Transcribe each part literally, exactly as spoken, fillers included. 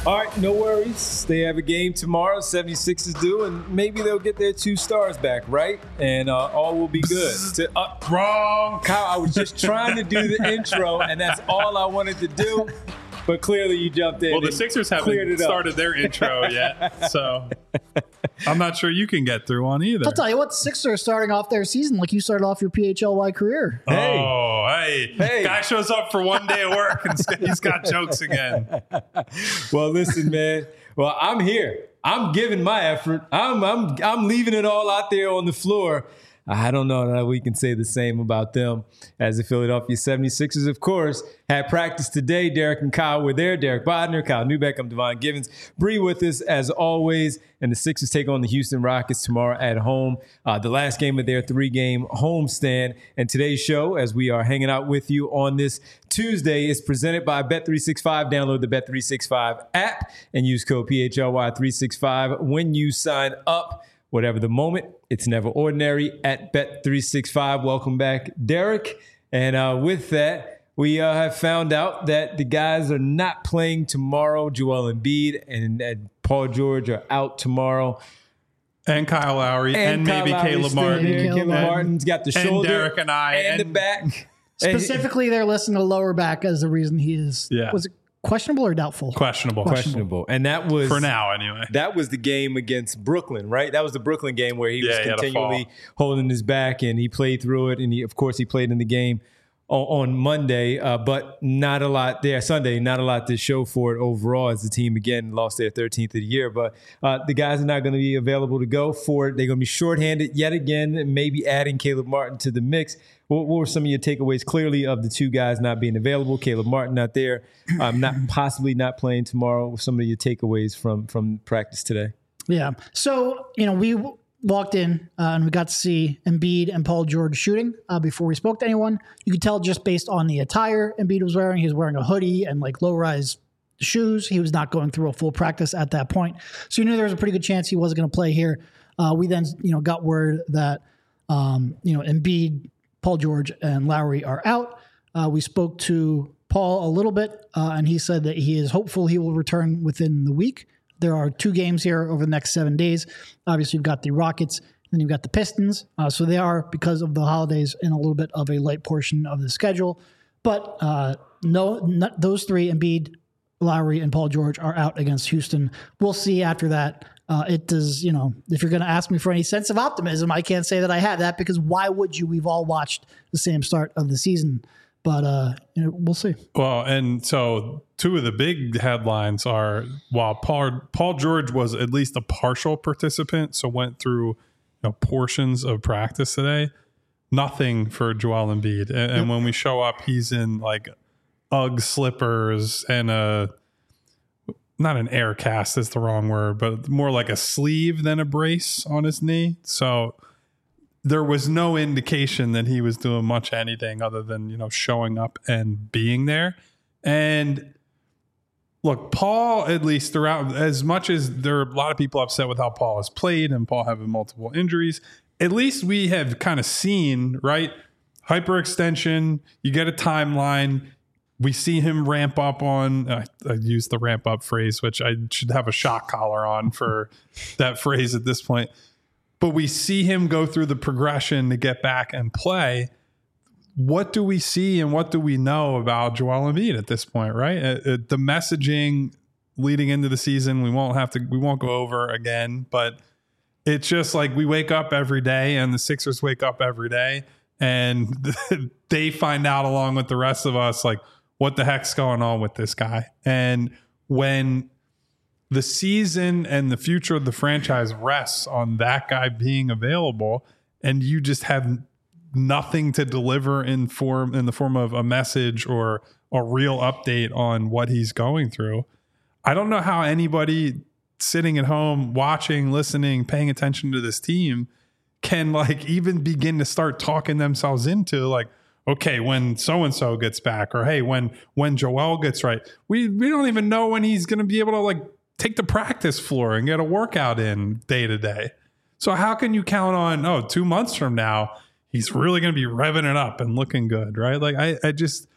All right, no worries. They have a game tomorrow. seventy-sixers do, and maybe they'll get their two stars back, right? And uh, all will be good. To, uh, Wrong. Kyle, I was just trying to do the intro, and that's all I wanted to do. But clearly you jumped in. Well, the Sixers haven't started their intro yet, so I'm not sure you can get through one either. I'll tell you what, the Sixers are starting off their season like you started off your P H L Y career. Hey. Oh, hey. Hey. Guy shows up for one day of work and he's got jokes again. Well, listen, man. Well, I'm here. I'm giving my effort. I'm I'm I'm leaving it all out there on the floor. I don't know that we can say the same about them as the Philadelphia seventy-sixers, of course, had practice today. Derek and Kyle were there. Derek Bodner, Kyle Newbeck, I'm Devon Givens. Bree with us as always. And the Sixers take on the Houston Rockets tomorrow at home. Uh, the last game of their three-game homestand. And today's show, as we are hanging out with you on this Tuesday, is presented by Bet three sixty-five. Download the Bet three sixty-five app and use code P H L Y three sixty-five when you sign up. Whatever the moment, it's never ordinary at Bet three sixty-five. Welcome back, Derek. And uh, with that, we uh, have found out that the guys are not playing tomorrow. Joel Embiid and, and Paul George are out tomorrow. And Kyle Lowry and, and maybe Kyle Caleb Martin. Caleb Caleb Martin. Martin's got the And shoulder. Derek and I. And, And- the back. Specifically, they're listing the lower back as the reason he is. Yeah. Was it questionable or doubtful? Questionable. Questionable. And that was For now, anyway. That was the game against Brooklyn, right? That was the Brooklyn game where he Yeah, was he had a continually fall. holding his back, and he played through it. And he, of course, he played in the game on, on Monday, uh, but not a lot there. Sunday, not a lot to show for it overall, as the team again lost their thirteenth of the year. But uh, the guys are not going to be available to go for it. They're going to be shorthanded yet again, maybe adding Caleb Martin to the mix. What, what were some of your takeaways clearly of the two guys not being available? Caleb Martin not there, um, not possibly not playing tomorrow. Some of your takeaways from from practice today. Yeah. So, you know, we w- walked in uh, and we got to see Embiid and Paul George shooting uh, before we spoke to anyone. You could tell just based on the attire Embiid was wearing. He was wearing a hoodie and like low-rise shoes. He was not going through a full practice at that point. So you knew there was a pretty good chance he wasn't going to play here. Uh, we then, you know, got word that, um, you know, Embiid, Paul George, and Lowry are out. Uh, we spoke to Paul a little bit, uh, and he said that he is hopeful he will return within the week. There are two games here over the next seven days. Obviously, you've got the Rockets, and then you've got the Pistons. Uh, so they are, because of the holidays, in a little bit of a light portion of the schedule. But uh, no, not, those three, Embiid, Lowry, and Paul George, are out against Houston. We'll see after that. Uh, it does, you know, if you're going to ask me for any sense of optimism, I can't say that I have that, because why would you? We've all watched the same start of the season. But uh, you know, we'll see. Well, and so two of the big headlines are, while Paul, Paul George was at least a partial participant, so went through, you know, portions of practice today, nothing for Joel Embiid. And, and when we show up, he's in like Ugg slippers and a, not an air cast is the wrong word, but more like a sleeve than a brace on his knee. So there was no indication that he was doing much anything other than, you know, showing up and being there. And look, Paul, at least throughout, as much as there are a lot of people upset with how Paul has played and Paul having multiple injuries, at least we have kind of seen, right? Hyperextension, you get a timeline. We see him ramp up on, uh, I use the ramp up phrase, which I should have a shock collar on for that phrase at this point. But we see him go through the progression to get back and play. What do we see and what do we know about Joel Embiid at this point, right? Uh, uh, the messaging leading into the season, we won't have to, we won't go over again, but it's just like we wake up every day and the Sixers wake up every day and they find out along with the rest of us, like, what the heck's going on with this guy? And when the season and the future of the franchise rests on that guy being available, and you just have nothing to deliver in form in the form of a message or a real update on what he's going through, I don't know how anybody sitting at home watching, listening, paying attention to this team can like even begin to start talking themselves into like, okay, when so-and-so gets back, or hey, when when Joel gets right, we we don't even know when he's going to be able to like take the practice floor and get a workout in day to day. So how can you count on, oh, two months from now, he's really going to be revving it up and looking good, right? Like I, I just,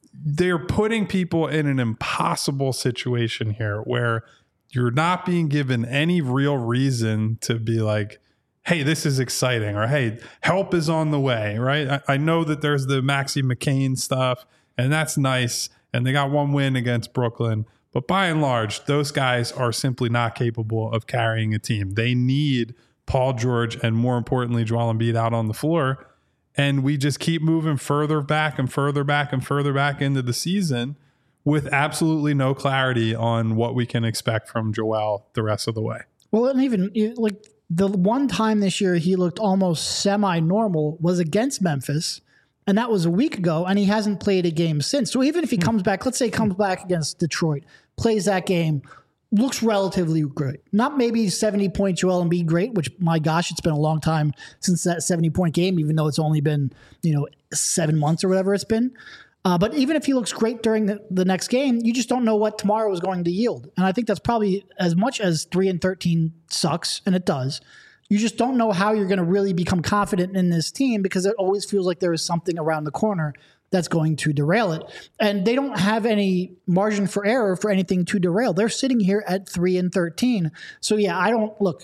they're putting people in an impossible situation here where you're not being given any real reason to be like, hey, this is exciting, or hey, help is on the way, right? I, I know that there's the Maxie McCain stuff, and that's nice, and they got one win against Brooklyn, but by and large, those guys are simply not capable of carrying a team. They need Paul George and, more importantly, Joel Embiid out on the floor, and we just keep moving further back and further back and further back into the season with absolutely no clarity on what we can expect from Joel the rest of the way. Well, and even like the one time this year he looked almost semi-normal was against Memphis, and that was a week ago, and he hasn't played a game since. So even if he comes back, let's say he comes back against Detroit, plays that game, looks relatively great. Not maybe seventy-point Joel Embiid great, which, my gosh, it's been a long time since that seventy-point game, even though it's only been, you know, seven months or whatever it's been. Uh, but even if he looks great during the, the next game, you just don't know what tomorrow is going to yield. And I think that's probably, as much as three and thirteen sucks, and it does, you just don't know how you're going to really become confident in this team, because it always feels like there is something around the corner that's going to derail it. And they don't have any margin for error for anything to derail. They're sitting here at three and thirteen. So yeah, I don't, look,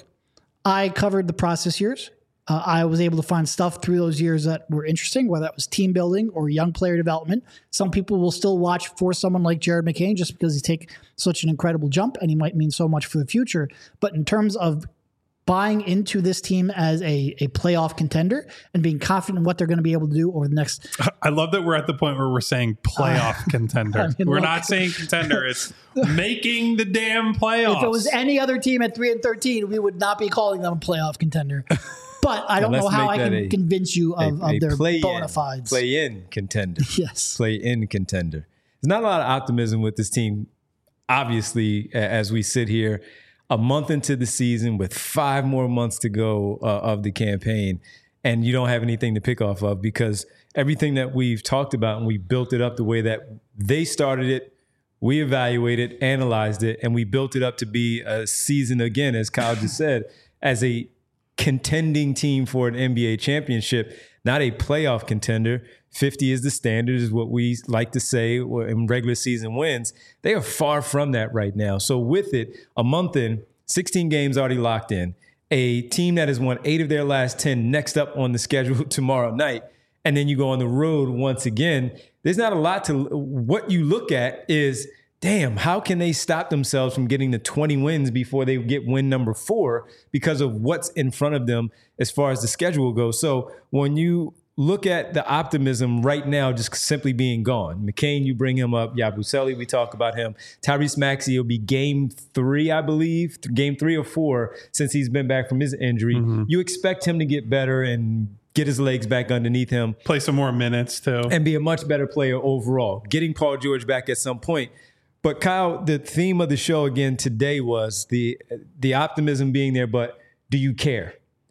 I covered the process years. Uh, I was able to find stuff through those years that were interesting, whether that was team building or young player development. Some people will still watch for someone like Jared McCain just because he take such an incredible jump and he might mean so much for the future. But in terms of buying into this team as a, a playoff contender and being confident in what they're going to be able to do over the next... I love that we're at the point where we're saying playoff uh, contender. I mean, we're look, not saying contender. It's making the damn playoffs. If it was any other team at three and thirteen, we would not be calling them a playoff contender. But I don't know how I can a, convince you of, a, of their play bona fides. Play in contender. Yes. Play in contender. There's not a lot of optimism with this team, obviously, as we sit here a month into the season with five more months to go uh, of the campaign, and you don't have anything to pick off of, because everything that we've talked about and we built it up the way that they started it, we evaluated, analyzed it, and we built it up to be a season, again, as Kyle just said, as a contending team for an N B A championship, not a playoff contender. fifty is the standard, is what we like to say in regular season wins. They are far from that right now. So with it, a month in, sixteen games already locked in, a team that has won eight of their last ten next up on the schedule tomorrow night, and then you go on the road once again. There's not a lot to, what you look at is, damn, how can they stop themselves from getting to twenty wins before they get win number four because of what's in front of them as far as the schedule goes? So when you look at the optimism right now just simply being gone, McCain, you bring him up, Yabusele, we talk about him. Tyrese Maxey will be game three, I believe, game three or four since he's been back from his injury. Mm-hmm. You expect him to get better and get his legs back underneath him. Play some more minutes too. And be a much better player overall. Getting Paul George back at some point. But Kyle, the theme of the show again today was the the optimism being there, but do you care?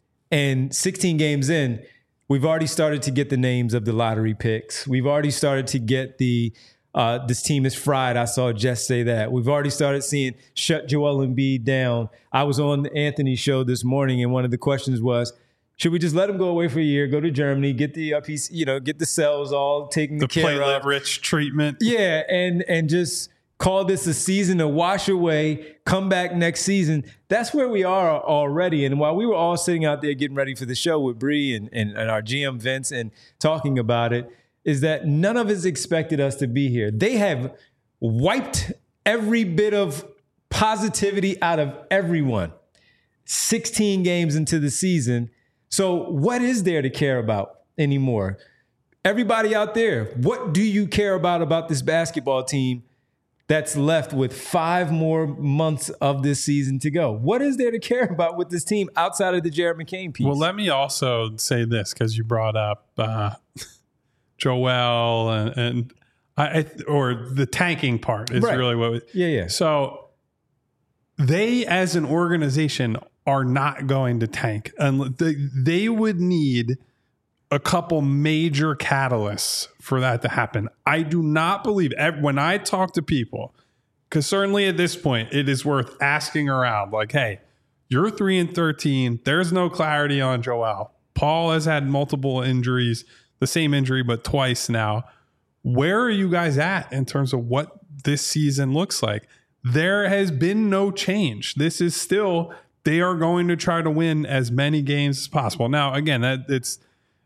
And sixteen games in, we've already started to get the names of the lottery picks. We've already started to get the, uh, this team is fried. I saw Jess say that. We've already started seeing shut Joel Embiid down. I was on Anthony's show this morning, and one of the questions was, should we just let him go away for a year, go to Germany, get the uh, piece, you know, get the cells all taken the care of, platelet rich treatment? Yeah, and and just call this a season to wash away, come back next season. That's where we are already. And while we were all sitting out there getting ready for the show with Bree and, and, and our G M Vince and talking about it, is that none of us expected us to be here. They have wiped every bit of positivity out of everyone. sixteen games into the season. So what is there to care about anymore? Everybody out there, what do you care about about this basketball team that's left with five more months of this season to go? What is there to care about with this team outside of the Jared McCain piece? Well, let me also say this, because you brought up uh, Joel and, and I, or the tanking part is right. really what. We, yeah, yeah. So they, as an organization, are not going to tank, and they, they would need a couple major catalysts for that to happen. I do not believe, when I talk to people, because certainly at this point it is worth asking around, like, hey, you're three and thirteen. There's no clarity on Joel. Paul has had multiple injuries, the same injury, but twice now. where are you guys at in terms of what this season looks like? There has been no change. This is still, they are going to try to win as many games as possible. Now, again, that it's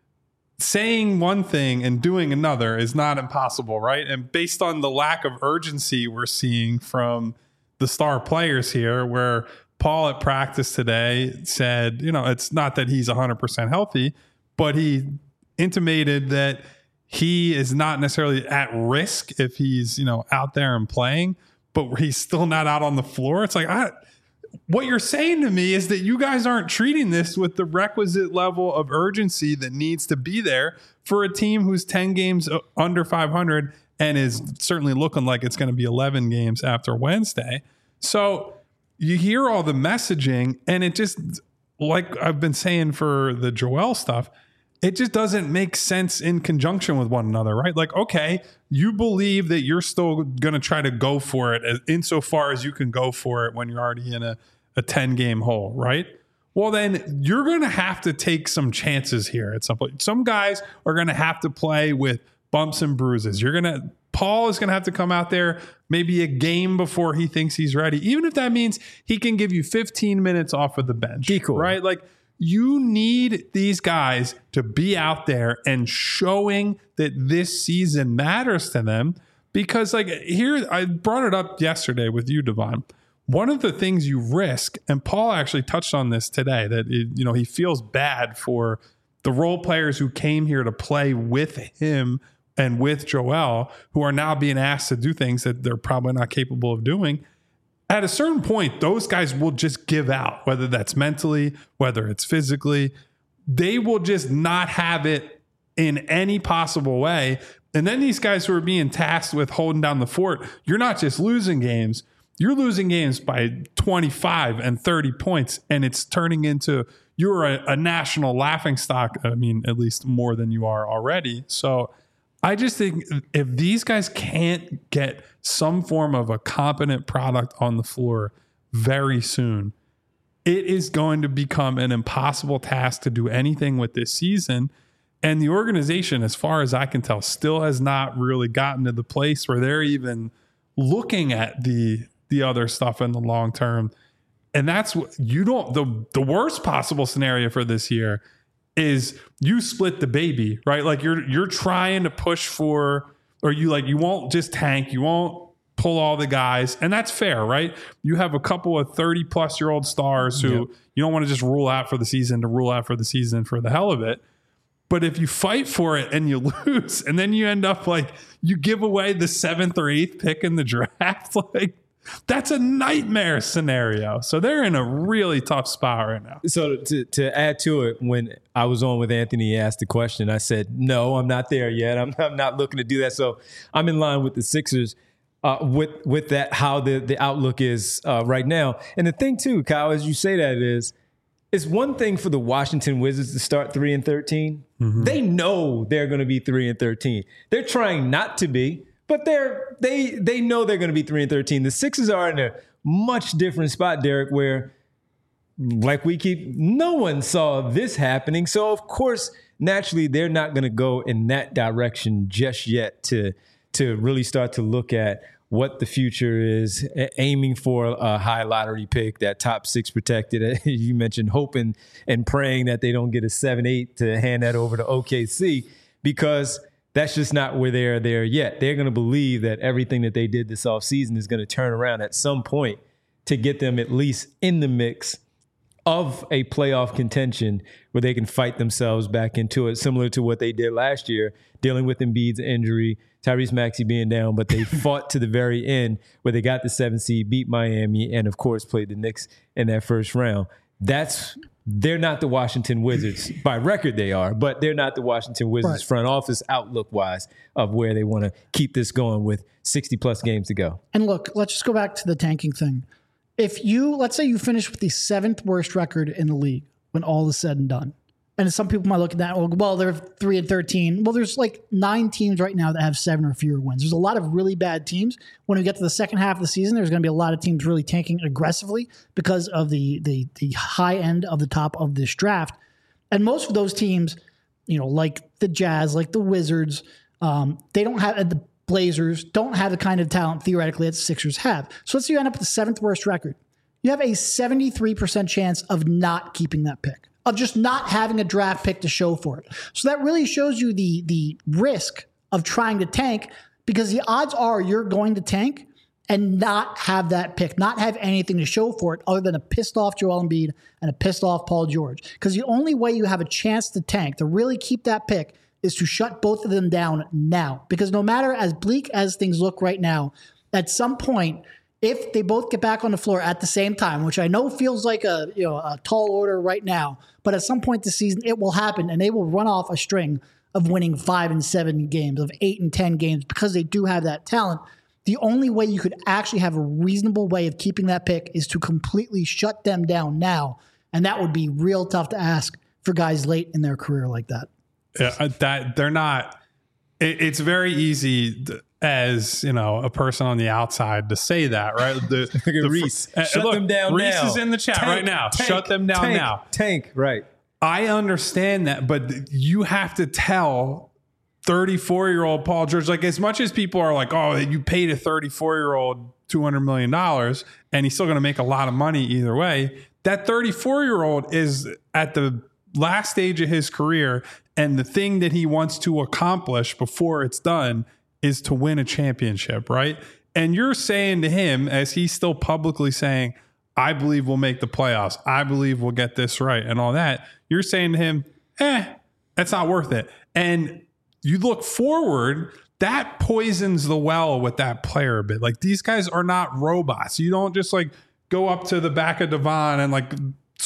saying one thing and doing another is not impossible, right? And based on the lack of urgency we're seeing from the star players here, where Paul at practice today said, you know, it's not that he's one hundred percent healthy, but he intimated that he is not necessarily at risk if he's, you know, out there and playing, but he's still not out on the floor. It's like, I, what you're saying to me is that you guys aren't treating this with the requisite level of urgency that needs to be there for a team who's ten games under five hundred and is certainly looking like it's going to be eleven games after Wednesday. So you hear all the messaging, and it just, like I've been saying for the Joel stuff, it just doesn't make sense in conjunction with one another, right? Like, okay, you believe that you're still going to try to go for it as, insofar as you can go for it when you're already in a, a ten-game hole, right? Well, then you're going to have to take some chances here at some point. Some guys are going to have to play with bumps and bruises. You're going to, Paul is going to have to come out there maybe a game before he thinks he's ready, even if that means he can give you fifteen minutes off of the bench, Cool. right? Like, you need these guys to be out there and showing that this season matters to them, because like here, I brought it up yesterday with you, Devon. One of the things you risk, and Paul actually touched on this today, that it, you know, he feels bad for the role players who came here to play with him and with Joel, who are now being asked to do things that they're probably not capable of doing. At a certain point, those guys will just give out, whether that's mentally, whether it's physically. They will just not have it in any possible way. And then these guys who are being tasked with holding down the fort, you're not just losing games, you're losing games by twenty-five and thirty points, and it's turning into, you're a, a national laughingstock. I mean, at least more than you are already. So I just think if these guys can't get some form of a competent product on the floor very soon, it is going to become an impossible task to do anything with this season. And the organization, as far as I can tell, still has not really gotten to the place where they're even looking at the the other stuff in the long term. And that's what you don't, the, the worst possible scenario for this year is you split the baby, right? Like you're, you're trying to push for, or you like, you won't just tank, you won't pull all the guys. And that's fair, right? You have a couple of thirty plus year old stars who yep. you don't want to just rule out for the season to rule out for the season for the hell of it. But if you fight for it and you lose, and then you end up like you give away the seventh or eighth pick in the draft, like that's a nightmare scenario. So they're in a really tough spot right now. So to, to add to it, when I was on with Anthony, he asked the question, I said, no, I'm not there yet. I'm, I'm not looking to do that. So I'm in line with the Sixers uh, with with that, how the, the outlook is uh, right now. And the thing too, Kyle, as you say that is, it's one thing for the Washington Wizards to start three and thirteen. Mm-hmm. They know they're going to be three and thirteen. They're trying not to be, but they're they they know they're going to be three and thirteen. The Sixers are in a much different spot, Derek, where, like we keep, no one saw this happening. So of course, naturally, they're not going to go in that direction just yet to to really start to look at what the future is, aiming for a high lottery pick, that top six protected. You mentioned hoping and praying that they don't get a seven eight to hand that over to O K C, because that's just not where they're there yet. They're going to believe that everything that they did this offseason is going to turn around at some point to get them at least in the mix of a playoff contention where they can fight themselves back into it, similar to what they did last year, dealing with Embiid's injury, Tyrese Maxey being down, but they fought to the very end where they got the seventh seed, beat Miami, and of course played the Knicks in that first round. That's they're not the Washington Wizards. By record they are, but they're not the Washington Wizards right. front office outlook-wise of where they want to keep this going with sixty-plus games to go. And look, let's just go back to the tanking thing. If you, let's say you finish with the seventh worst record in the league when all is said and done, and some people might look at that, well, they're three and thirteen. Well, there's like nine teams right now that have seven or fewer wins. There's a lot of really bad teams. When we get to the second half of the season, there's going to be a lot of teams really tanking aggressively because of the the the high end of the top of this draft. And most of those teams, you know, like the Jazz, like the Wizards, Um, they don't have the Blazers don't have the kind of talent theoretically that the Sixers have. So let's say you end up with the seventh worst record. You have a seventy-three percent chance of not keeping that pick, of just not having a draft pick to show for it. So that really shows you the the risk of trying to tank, because the odds are you're going to tank and not have that pick, not have anything to show for it other than a pissed off Joel Embiid and a pissed off Paul George. Because the only way you have a chance to tank, to really keep that pick, is to shut both of them down now. Because no matter as bleak as things look right now, at some point, if they both get back on the floor at the same time, which I know feels like a you know a tall order right now, but at some point this season it will happen, and they will run off a string of winning five and seven games, of eight and ten games, because they do have that talent. The only way you could actually have a reasonable way of keeping that pick is to completely shut them down now, and that would be real tough to ask for guys late in their career like that. Yeah, that they're not. It, it's very easy to, as you know, a person on the outside to say that, right? The, Look at the, Reese. Uh, Shut look, them down Reese now. is in the chat Tank, right now. tank, Shut them down tank, now. Tank, right. I understand that, but you have to tell thirty-four-year-old Paul George, like as much as people are like, oh, you paid a thirty-four-year-old two hundred million dollars and he's still going to make a lot of money either way, that thirty-four-year-old is at the last stage of his career, and the thing that he wants to accomplish before it's done is to win a championship, right? And you're saying to him, as he's still publicly saying, I believe we'll make the playoffs, I believe we'll get this right and all that, you're saying to him, eh, that's not worth it. And you look forward, that poisons the well with that player a bit. Like, these guys are not robots. You don't just like go up to the back of Devon and like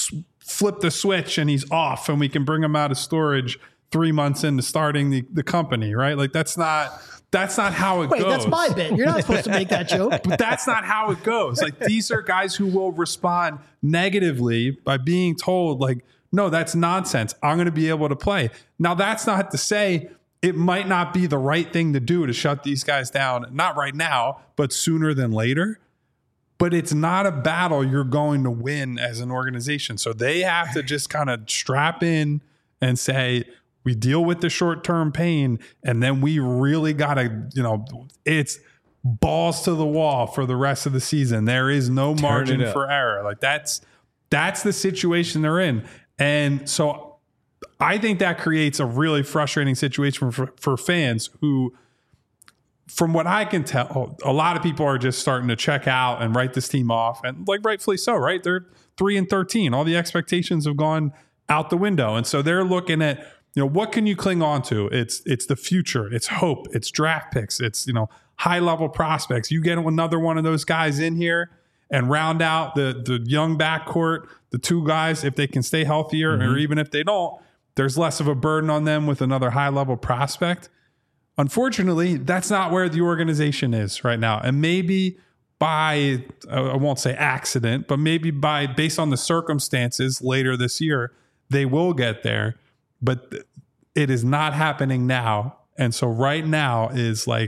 flip the switch and he's off and we can bring him out of storage three months into starting the, the company, right? Like that's not that's not how it Wait, goes. that's my bit. You're not supposed to make that joke. But that's not how it goes. Like, these are guys who will respond negatively by being told, like, no, that's nonsense. I'm going to be able to play. Now, that's not to say it might not be the right thing to do to shut these guys down. Not right now, but sooner than later. But it's not a battle you're going to win as an organization. So they have to just kind of strap in and say, we deal with the short-term pain, and then we really got to, you know, it's balls to the wall for the rest of the season. There is no margin for error. Like that's that's the situation they're in. And so I think that creates a really frustrating situation for, for fans who, from what I can tell, a lot of people are just starting to check out and write this team off, and like rightfully so, right? They're three and thirteen. All the expectations have gone out the window. And so they're looking at, you know, what can you cling on to? It's it's the future, it's hope, it's draft picks, it's, you know, high level prospects. You get another one of those guys in here and round out the the young backcourt, the two guys, if they can stay healthier, mm-hmm. or even if they don't, there's less of a burden on them with another high level prospect. Unfortunately, that's not where the organization is right now. And maybe by, I won't say accident, but maybe by based on the circumstances later this year, they will get there. But it is not happening now. And so right now is like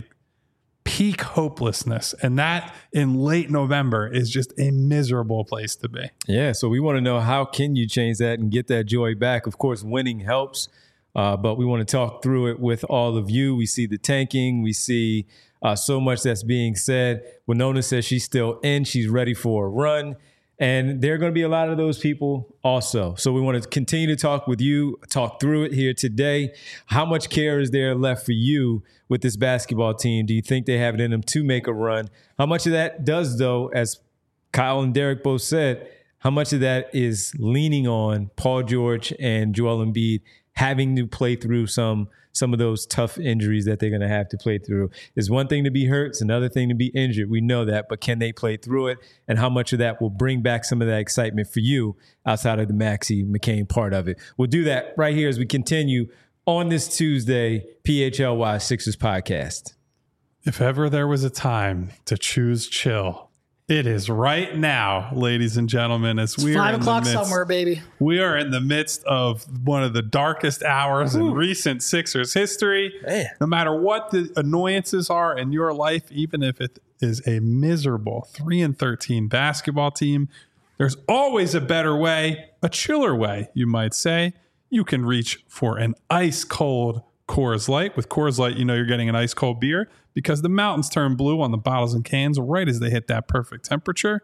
peak hopelessness. And that in late November is just a miserable place to be. Yeah. So we want to know, how can you change that and get that joy back? Of course, winning helps. Uh, but we want to talk through it with all of you. We see the tanking. We see uh, so much that's being said. Winona says she's still in. She's ready for a run. And there are going to be a lot of those people also. So we want to continue to talk with you, talk through it here today. How much care is there left for you with this basketball team? Do you think they have it in them to make a run? How much of that does, though, as Kyle and Derek both said, how much of that is leaning on Paul George and Joel Embiid having to play through some some of those tough injuries that they're going to have to play through? It's one thing to be hurt. It's another thing to be injured. We know that. But can they play through it? And how much of that will bring back some of that excitement for you outside of the Maxey McCain part of it? We'll do that right here as we continue on this Tuesday P H L Y Sixers podcast. If ever there was a time to choose chill, it is right now, ladies and gentlemen. As we it's are five in o'clock the midst, somewhere, baby. We are in the midst of one of the darkest hours Ooh. in recent Sixers history. Man. No matter what the annoyances are in your life, even if it is a miserable three and thirteen basketball team, there's always a better way, a chiller way, you might say. You can reach for an ice cold Coors Light. With Coors Light, you know you're getting an ice cold beer because the mountains turn blue on the bottles and cans right as they hit that perfect temperature.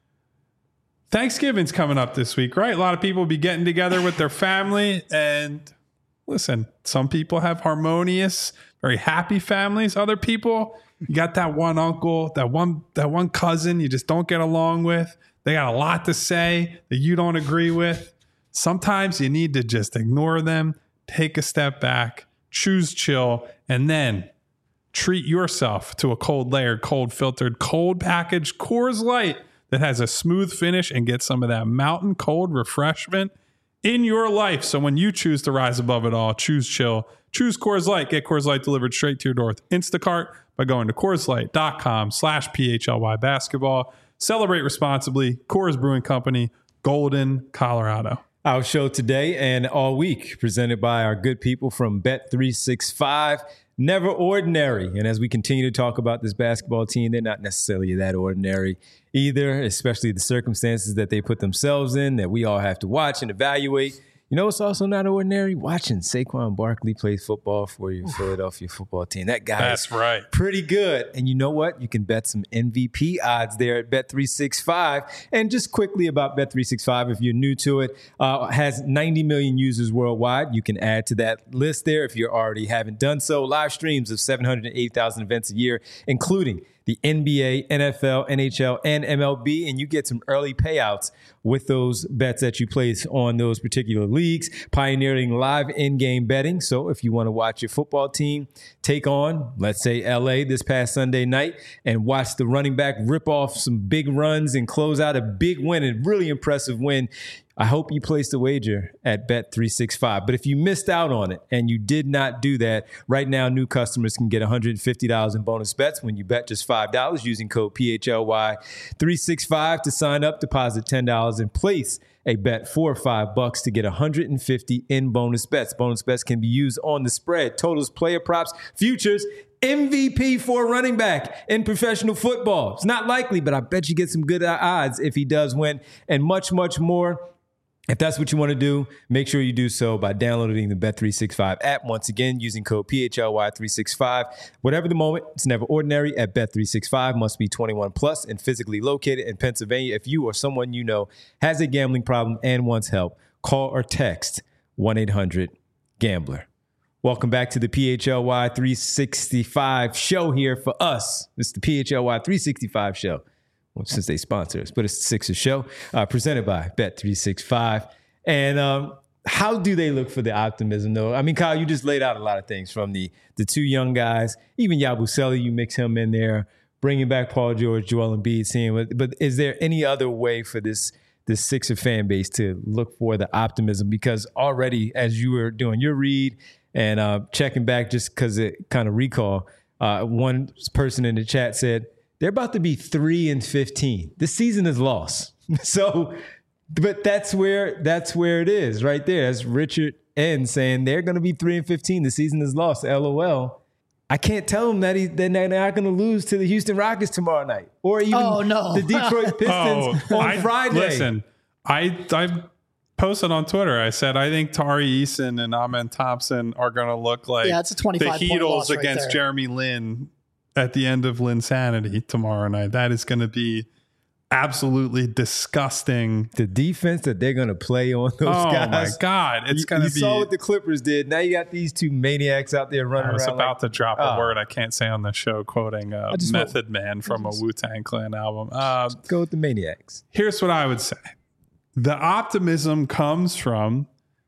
Thanksgiving's coming up this week, right? A lot of people will be getting together with their family. And listen, some people have harmonious, very happy families. Other people, you got that one uncle, that one, that one cousin you just don't get along with. They got a lot to say that you don't agree with. Sometimes you need to just ignore them, take a step back, choose chill, and then treat yourself to a cold layered, cold filtered, cold packaged Coors Light that has a smooth finish and get some of that mountain cold refreshment in your life. So when you choose to rise above it all, choose chill, choose Coors Light. Get Coors Light delivered straight to your door with Instacart by going to CoorsLight.com slash PHLY basketball. Celebrate responsibly. Coors Brewing Company, Golden, Colorado. Our show today and all week presented by our good people from Bet three sixty-five. Never ordinary. And as we continue to talk about this basketball team, they're not necessarily that ordinary either, especially the circumstances that they put themselves in that we all have to watch and evaluate. You know, it's also not ordinary watching Saquon Barkley play football for your Philadelphia football team. That guy That's is right. pretty good. And you know what? You can bet some M V P odds there at Bet three sixty-five. And just quickly about Bet three sixty-five, if you're new to it, uh, has ninety million users worldwide. You can add to that list there if you already haven't done so. Live streams of seven hundred eighty thousand events a year, including the N B A, N F L, N H L, and M L B, and you get some early payouts with those bets that you place on those particular leagues, pioneering live in-game betting. So if you want to watch your football team take on, let's say, L A this past Sunday night and watch the running back rip off some big runs and close out a big win, a really impressive win, I hope you placed a wager at Bet three sixty-five. But if you missed out on it and you did not do that, right now new customers can get one hundred fifty dollars in bonus bets when you bet just five dollars using code P H L Y three sixty-five to sign up, deposit ten dollars and place a bet four or five bucks to get one hundred fifty in bonus bets. Bonus bets can be used on the spread, totals, player props, futures, M V P for a running back in professional football. It's not likely, but I bet you get some good odds if he does win, and much, much more. If that's what you want to do, make sure you do so by downloading the Bet three sixty-five app. Once again, using code P H L Y three sixty-five. Whatever the moment, it's never ordinary at Bet three sixty-five. Must be twenty-one plus and physically located in Pennsylvania. If you or someone you know has a gambling problem and wants help, call or text one eight hundred gambler. Welcome back to the P H L Y three sixty-five show here for us. It's the P H L Y three sixty-five show. Well, since they sponsor us, but it's the Sixers show uh, presented by Bet three sixty-five. And um, how do they look for the optimism, though? I mean, Kyle, you just laid out a lot of things from the the two young guys, even Yabusele, you mix him in there, bringing back Paul George, Joel Embiid, seeing what, but is there any other way for this this Sixer fan base to look for the optimism? Because already, as you were doing your read and uh, checking back, just because it kind of recall, uh, one person in the chat said, they're about to be three and fifteen. This season is lost. So, but that's where that's where it is right there. That's Richard N saying they're going to be three and fifteen. The season is lost. L O L. I can't tell them that he, they're not going to lose to the Houston Rockets tomorrow night, or even oh, no. the Detroit Pistons oh, on I, Friday. Listen, I I posted on Twitter. I said I think Tari Eason and Amen Thompson are going to look like yeah, it's a the twenty-five point loss Heatles right against there. Jeremy Lin at the end of Linsanity tomorrow night. That is going to be absolutely disgusting. The defense that they're going to play on those oh guys. Oh my God. It's going to you be. You saw what the Clippers did. Now you got these two maniacs out there running I was around. about like, to drop a oh. word I can't say on the show, quoting uh, Method want, Man from a Wu-Tang Clan album. Uh, go with the maniacs. Here's what I would say. The optimism comes from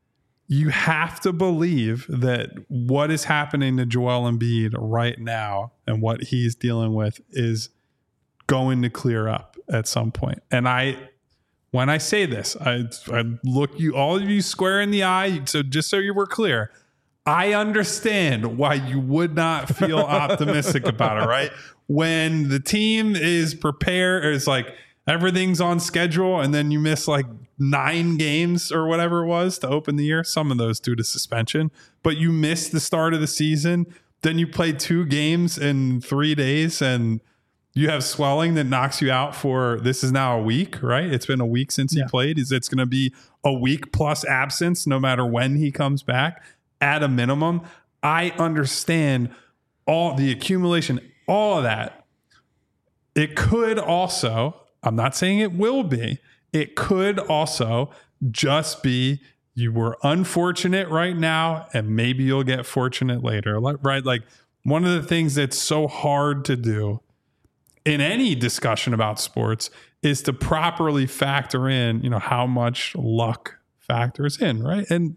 you have to believe that what is happening to Joel Embiid right now and what he's dealing with is going to clear up at some point. And I, when I say this, I, I look you, all of you square in the eye. So just so you were clear, I understand why you would not feel optimistic about it, right? When the team is prepared, or it's like everything's on schedule, and then you miss like nine games or whatever it was to open the year. Some of those due to suspension, but you missed the start of the season. Then you play two games in three days and you have swelling that knocks you out for, this is now a week, right? It's been a week since yeah. he played. Is it's going to be a week plus absence no matter when he comes back at a minimum. I understand all the accumulation, all of that. It could also, I'm not saying it will be, it could also just be you were unfortunate right now and maybe you'll get fortunate later, right? Like one of the things that's so hard to do in any discussion about sports is to properly factor in, you know, how much luck factors in, right? And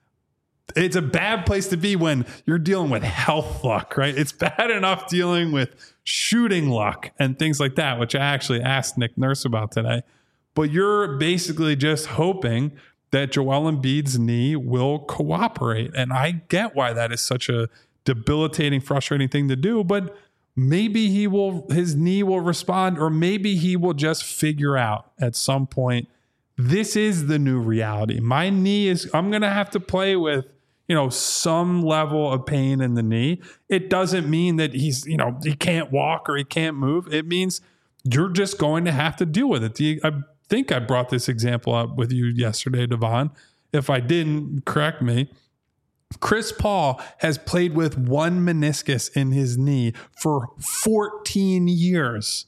it's a bad place to be when you're dealing with health luck, right? It's bad enough dealing with shooting luck and things like that, which I actually asked Nick Nurse about today. But you're basically just hoping that Joel Embiid's knee will cooperate. And I get why that is such a debilitating, frustrating thing to do, but maybe he will, his knee will respond, or maybe he will just figure out at some point, this is the new reality. My knee is, I'm going to have to play with, you know, some level of pain in the knee. It doesn't mean that he's, you know, he can't walk or he can't move. It means you're just going to have to deal with it. The, I think I brought this example up with you yesterday, Devon. If I didn't, correct me. Chris Paul has played with one meniscus in his knee for fourteen years.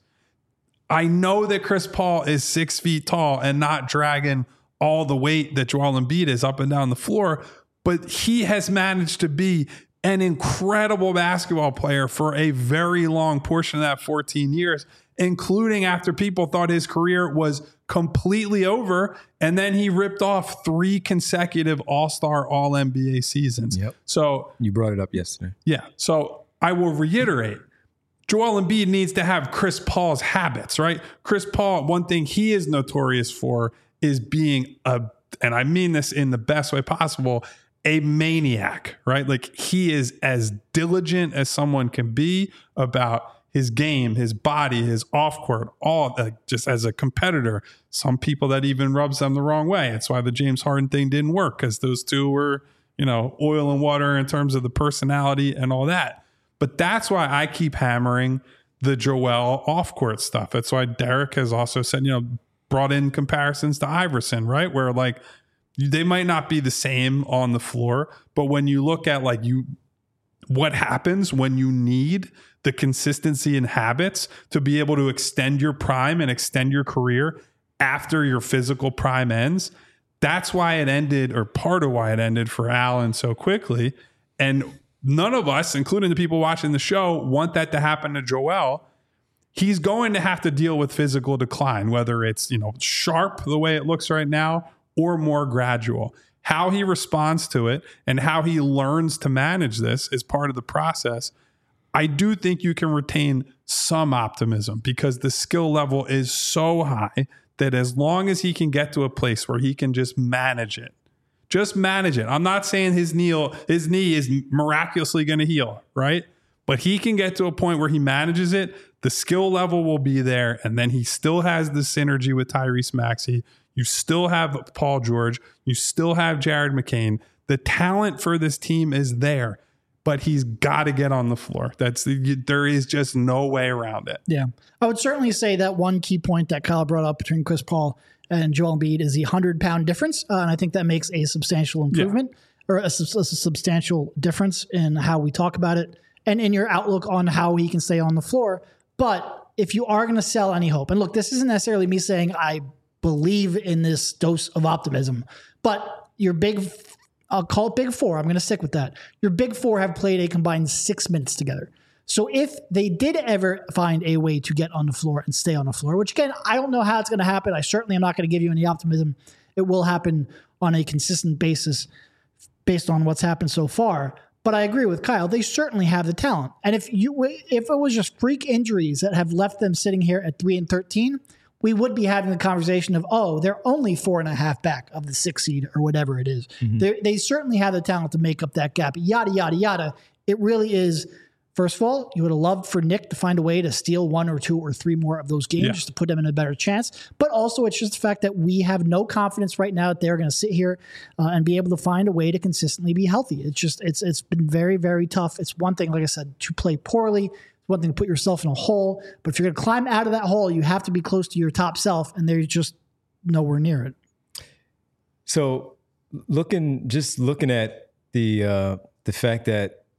I know that Chris Paul is six feet tall and not dragging all the weight that Joel Embiid is up and down the floor, but he has managed to be an incredible basketball player for a very long portion of that fourteen years, including after people thought his career was completely over. And then he ripped off three consecutive All-Star, All-N B A seasons. Yep. So you brought it up yesterday. Yeah. So I will reiterate, Joel Embiid needs to have Chris Paul's habits, right? Chris Paul, one thing he is notorious for is being a, and I mean this in the best way possible, a maniac, right? Like he is as diligent as someone can be about his game, his body, his off court, all uh, just as a competitor. Some people that even rubs them the wrong way. That's why the James Harden thing didn't work, because those two were, you know, oil and water in terms of the personality and all that. But that's why I keep hammering the Joel off court stuff. That's why Derek has also said, you know, brought in comparisons to Iverson, right? Where like they might not be the same on the floor, but when you look at like you, what happens when you need the consistency and habits to be able to extend your prime and extend your career after your physical prime ends. That's why it ended, or part of why it ended for Allen so quickly. And none of us, including the people watching the show, want that to happen to Joel. He's going to have to deal with physical decline, whether it's, you know, sharp the way it looks right now or more gradual. How he responds to it and how he learns to manage this is part of the process. I do think you can retain some optimism because the skill level is so high that as long as he can get to a place where he can just manage it, just manage it. I'm not saying his knee, his knee is miraculously going to heal, right? But he can get to a point where he manages it. The skill level will be there. And then he still has the synergy with Tyrese Maxey. You still have Paul George. You still have Jared McCain. The talent for this team is there, but he's got to get on the floor. That's the, there is just no way around it. Yeah. I would certainly say that one key point that Kyle brought up between Chris Paul and Joel Embiid is the hundred pound difference. Uh, and I think that makes a substantial improvement yeah. or a, a substantial difference in how we talk about it and in your outlook on how he can stay on the floor. But if you are going to sell any hope, and look, this isn't necessarily me saying I believe in this dose of optimism, but your big, I'll call it big four. I'm going to stick with that. Your big four have played a combined six minutes together. So if they did ever find a way to get on the floor and stay on the floor, which again, I don't know how it's going to happen. I certainly am not going to give you any optimism. It will happen on a consistent basis based on what's happened so far. But I agree with Kyle. They certainly have the talent. And if you, if it was just freak injuries that have left them sitting here at three and thirteen, we would be having the conversation of, oh, they're only four and a half back of the six seed or whatever it is. Mm-hmm. They certainly have the talent to make up that gap, yada, yada, yada. It really is, first of all, you would have loved for Nick to find a way to steal one or two or three more of those games yeah. just to put them in a better chance. But also it's just the fact that we have no confidence right now that they're going to sit here uh, and be able to find a way to consistently be healthy. It's just, it's it's been very, very tough. It's one thing, like I said, to play poorly. One thing to put yourself in a hole, but if you're going to climb out of that hole, you have to be close to your top self, and they're just nowhere near it. So, looking just looking at the uh, the fact that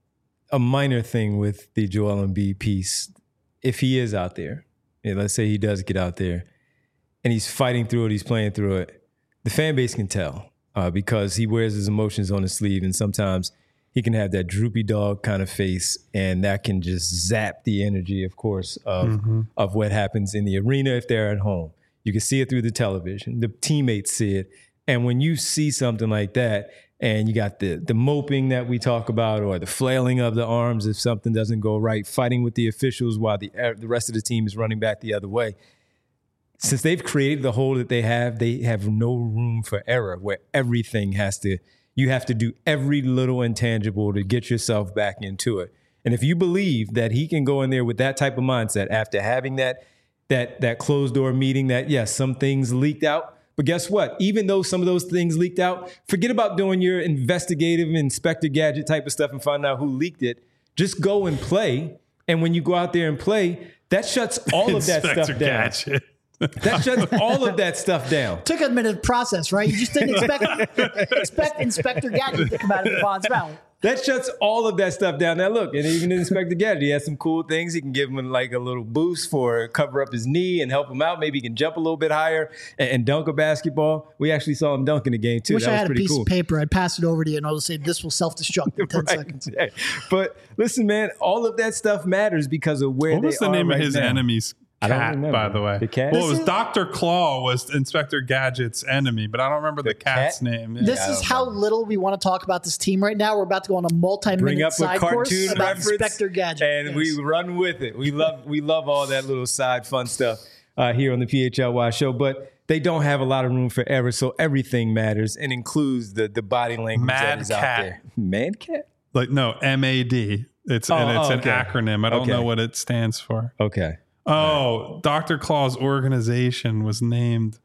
a minor thing with the Joel Embiid piece. If he is out there, and let's say he does get out there, and he's fighting through it, he's playing through it, the fan base can tell uh, because he wears his emotions on his sleeve, and sometimes he can have that droopy dog kind of face, and that can just zap the energy, of course, of, mm-hmm. of what happens in the arena if they're at home. You can see it through the television. The teammates see it. And when you see something like that, and you got the the moping that we talk about, or the flailing of the arms if something doesn't go right, fighting with the officials while the the rest of the team is running back the other way. Since they've created the hole that they have, they have no room for error where everything has to, you have to do every little intangible to get yourself back into it. And if you believe that he can go in there with that type of mindset after having that that that closed door meeting, that yes, some things leaked out. But guess what? Even though some of those things leaked out, forget about doing your investigative Inspector Gadget type of stuff and find out who leaked it. Just go and play. And when you go out there and play, that shuts all of that stuff down. Gadget. That shuts all of that stuff down. Took a minute to process, right? You just didn't expect, expect Inspector Gadget to come out of Devon's mouth. That shuts all of that stuff down. Now, look, and even Inspector Gadget, he has some cool things. He can give him like a little boost for cover up his knee and help him out. Maybe he can jump a little bit higher and, and dunk a basketball. We actually saw him dunk in the game, too. Wish that I was had a pretty piece cool. of paper. I'd pass it over to you and I'll say, this will self-destruct in ten right. seconds. Yeah. But listen, man, all of that stuff matters because of where what they was the are name right of his now. enemy's cat, by the way? The cat? Well, it was Doctor Claw was Inspector Gadget's enemy, but I don't remember the, the cat's cat? name. Yeah. This is how remember. little we want to talk about this team right now. We're about to go on a multi-minute side course about Inspector Gadget. And yes. we run with it. We love we love all that little side fun stuff uh, here on the P H L Y show, but they don't have a lot of room for error, so everything matters and includes the the body language Mad that is cat. out there. Mad cat? Like no, M A D. It's oh, and it's oh, okay. an acronym. I don't okay. know what it stands for. Okay. Oh, right. Doctor Claw's organization was named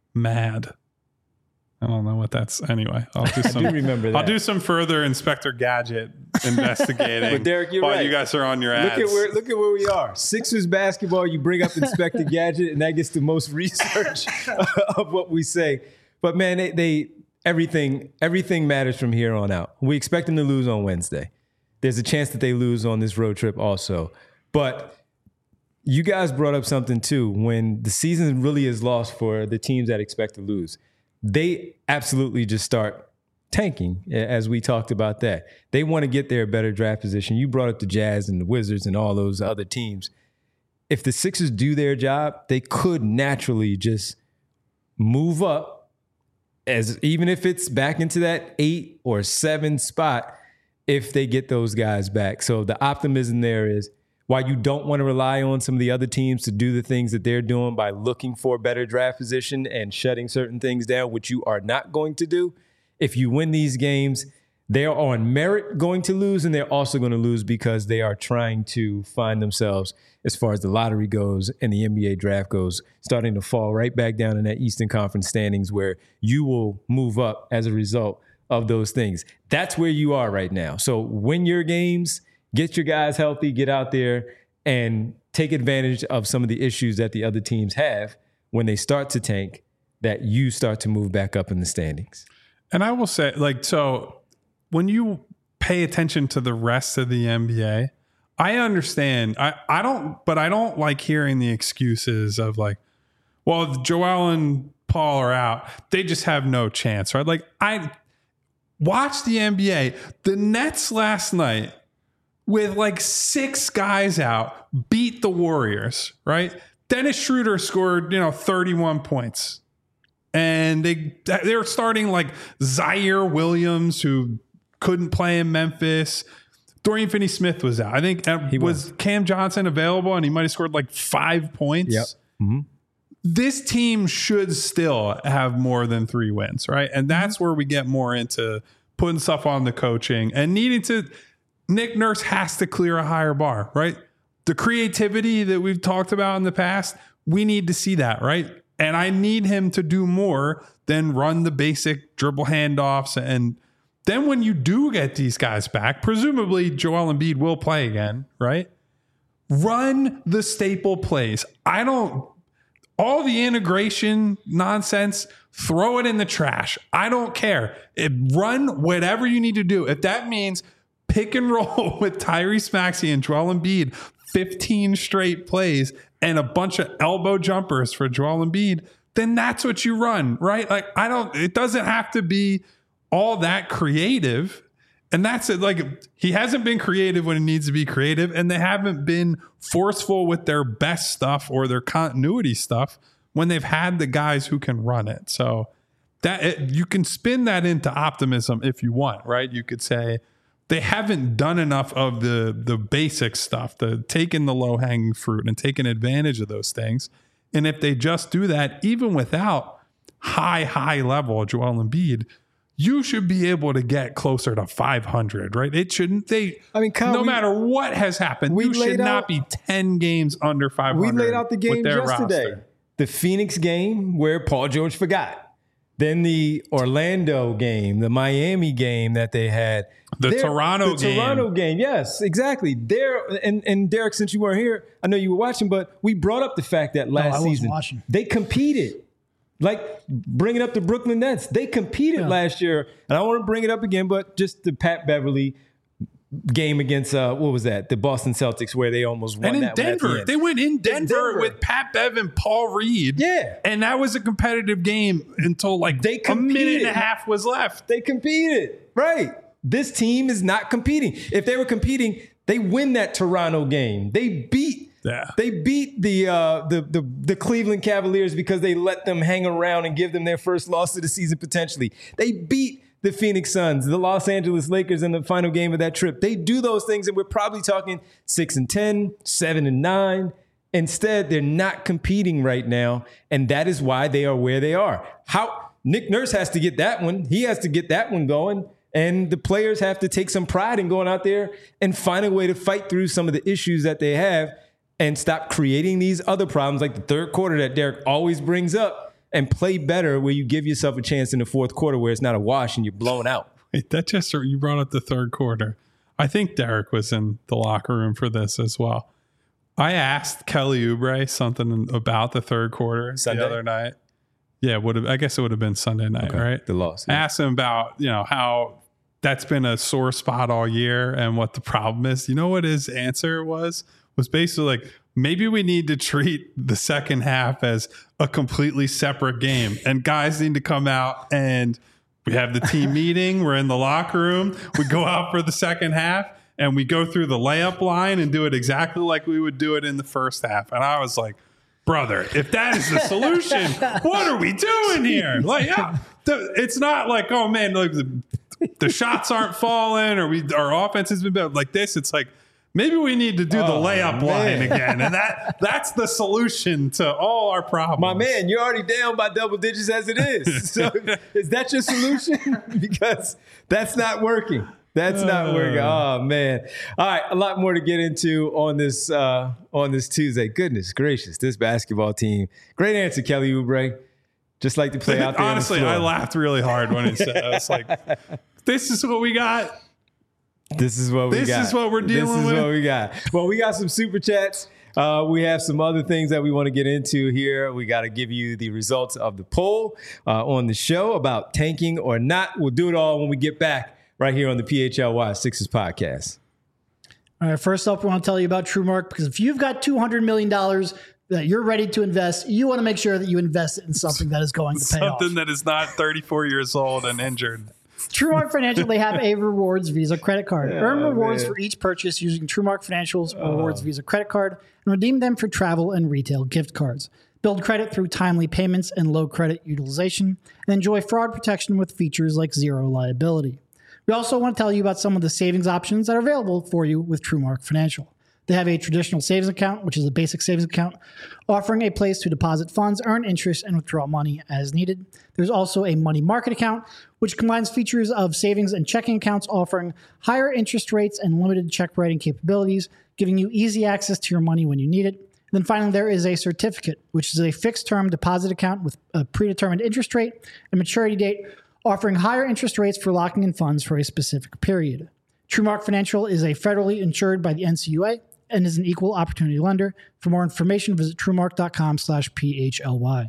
MAD. I don't know what that's. Anyway, I'll do some. I do remember that. I'll do some further Inspector Gadget investigating. But Derek, you're while right. you guys are on your ads. Look at where look at where we are. Sixers basketball. You bring up Inspector Gadget, and that gets the most research of what we say. But man, they, they everything everything matters from here on out. We expect them to lose on Wednesday. There's a chance that they lose on this road trip also, but. You guys brought up something too. When the season really is lost for the teams that expect to lose, they absolutely just start tanking, as we talked about that. They want to get their better draft position. You brought up the Jazz and the Wizards and all those other teams. If the Sixers do their job, they could naturally just move up, as even if it's back into that eight or seven spot, if they get those guys back. So the optimism there is, while you don't want to rely on some of the other teams to do the things that they're doing by looking for better draft position and shutting certain things down, which you are not going to do, if you win these games, they're on merit going to lose, and they're also going to lose because they are trying to find themselves, as far as the lottery goes and the N B A draft goes, starting to fall right back down in that Eastern Conference standings where you will move up as a result of those things. That's where you are right now. So win your games. Get your guys healthy, get out there and take advantage of some of the issues that the other teams have when they start to tank, that you start to move back up in the standings. And I will say, like, so when you pay attention to the rest of the N B A, I understand. I, I don't, but I don't like hearing the excuses of like, well, if Joel and Paul are out, they just have no chance, right? Like, I watch the N B A. The Nets last night, with like six guys out, beat the Warriors, right? Dennis Schroeder scored, you know, thirty-one points. And they they were starting like Zaire Williams, who couldn't play in Memphis. Dorian Finney-Smith was out. I think uh, was. was Cam Johnson available, and he might have scored like five points. Yep. Mm-hmm. This team should still have more than three wins, right? And that's where we get more into putting stuff on the coaching and needing to... Nick Nurse has to clear a higher bar, right? The creativity that we've talked about in the past, we need to see that, right? And I need him to do more than run the basic dribble handoffs. And then when you do get these guys back, presumably Joel Embiid will play again, right? Run the staple plays. I don't, all the integration nonsense, throw it in the trash. I don't care. It, run whatever you need to do. If that means pick and roll with Tyrese Maxey and Joel Embiid, fifteen straight plays and a bunch of elbow jumpers for Joel Embiid, then that's what you run, right? Like, I don't, it doesn't have to be all that creative. And that's it. Like, he hasn't been creative when he needs to be creative, and they haven't been forceful with their best stuff or their continuity stuff when they've had the guys who can run it. So that it, you can spin that into optimism if you want, right? You could say they haven't done enough of the the basic stuff, the taking the low hanging fruit and taking advantage of those things. And if they just do that, even without high, high level Joel Embiid, you should be able to get closer to five hundred, right? It shouldn't. They. I mean, Kyle, no we, matter what has happened, you should out, not be ten games under five hundred. We laid out the games yesterday. Roster. The Phoenix game where Paul George forgot. Then the Orlando game, the Miami game that they had. The They're, Toronto the game. The Toronto game, yes, exactly. There and, and Derek, since you weren't here, I know you were watching, but we brought up the fact that last no, I wasn't season watching. They competed. Like bringing up the Brooklyn Nets, they competed yeah. last year, and I want to bring it up again, but just the Pat Beverly game against uh, what was that? The Boston Celtics, where they almost won. And in that Denver, one at the they went in Denver, in Denver with Pat Bev and Paul Reed. Yeah, and that was a competitive game until like they a minute and a half was left. They competed, right? This team is not competing. If they were competing, they win that Toronto game. They beat. Yeah. They beat the, uh, the the the Cleveland Cavaliers because they let them hang around and give them their first loss of the season potentially. They beat the Phoenix Suns, the Los Angeles Lakers in the final game of that trip. They do those things, and we're probably talking six and ten, seven and nine. Instead, they're not competing right now, and that is why they are where they are. How Nick Nurse has to get that one. He has to get that one going. And the players have to take some pride in going out there and find a way to fight through some of the issues that they have and stop creating these other problems like the third quarter that Derek always brings up and play better where you give yourself a chance in the fourth quarter where it's not a wash and you're blown out. Wait, that just, you brought up the third quarter. I think Derek was in the locker room for this as well. I asked Kelly Oubre something about the third quarter Sunday? the other night. Yeah, would have. I guess it would have been Sunday night, okay. right? The loss. Yeah. I asked him about, you know, how that's been a sore spot all year and what the problem is. You know what his answer was? Was basically like, maybe we need to treat the second half as a completely separate game. And guys need to come out and we have the team meeting. We're in the locker room. We go out for the second half and we go through the layup line and do it exactly like we would do it in the first half. And I was like, brother, if that is the solution, what are we doing here? Like, yeah, the, it's not like, oh man, like the, the shots aren't falling or we our offense has been better. Like this, it's like, maybe we need to do oh, the layup man. line again. And that that's the solution to all our problems. My man, you're already down by double digits as it is. So is that your solution? Because that's not working. That's not working. Oh, man. All right, a lot more to get into on this uh, on this Tuesday. Goodness gracious, this basketball team. Great answer, Kelly Oubre. Just like to play out there. Honestly, on the floor. I laughed really hard when he said that. I was like, this is what we got. This is what we this got. This is what we're dealing with. This is with. what we got. Well, we got some super chats. Uh, we have some other things that we want to get into here. We got to give you the results of the poll uh, on the show about tanking or not. We'll do it all when we get back right here on the P H L Y Sixers podcast. All right, first up, we want to tell you about TrueMark, because if you've got two hundred million dollars that you're ready to invest, you want to make sure that you invest it in something that is going to pay something off. Something that is not thirty-four years old and injured. TrueMark Financial, they have a rewards Visa credit card. Yeah, Earn rewards man. for each purchase using TrueMark Financial's rewards Visa credit card and redeem them for travel and retail gift cards. Build credit through timely payments and low credit utilization, and enjoy fraud protection with features like zero liability. We also want to tell you about some of the savings options that are available for you with TrueMark Financial. They have a traditional savings account, which is a basic savings account, offering a place to deposit funds, earn interest, and withdraw money as needed. There's also a money market account, which combines features of savings and checking accounts, offering higher interest rates and limited check writing capabilities, giving you easy access to your money when you need it. And then finally, there is a certificate, which is a fixed-term deposit account with a predetermined interest rate and maturity date, offering higher interest rates for locking in funds for a specific period. TrueMark Financial is a federally insured by the N C U A and is an equal opportunity lender. For more information, visit truemark.com slash PHLY.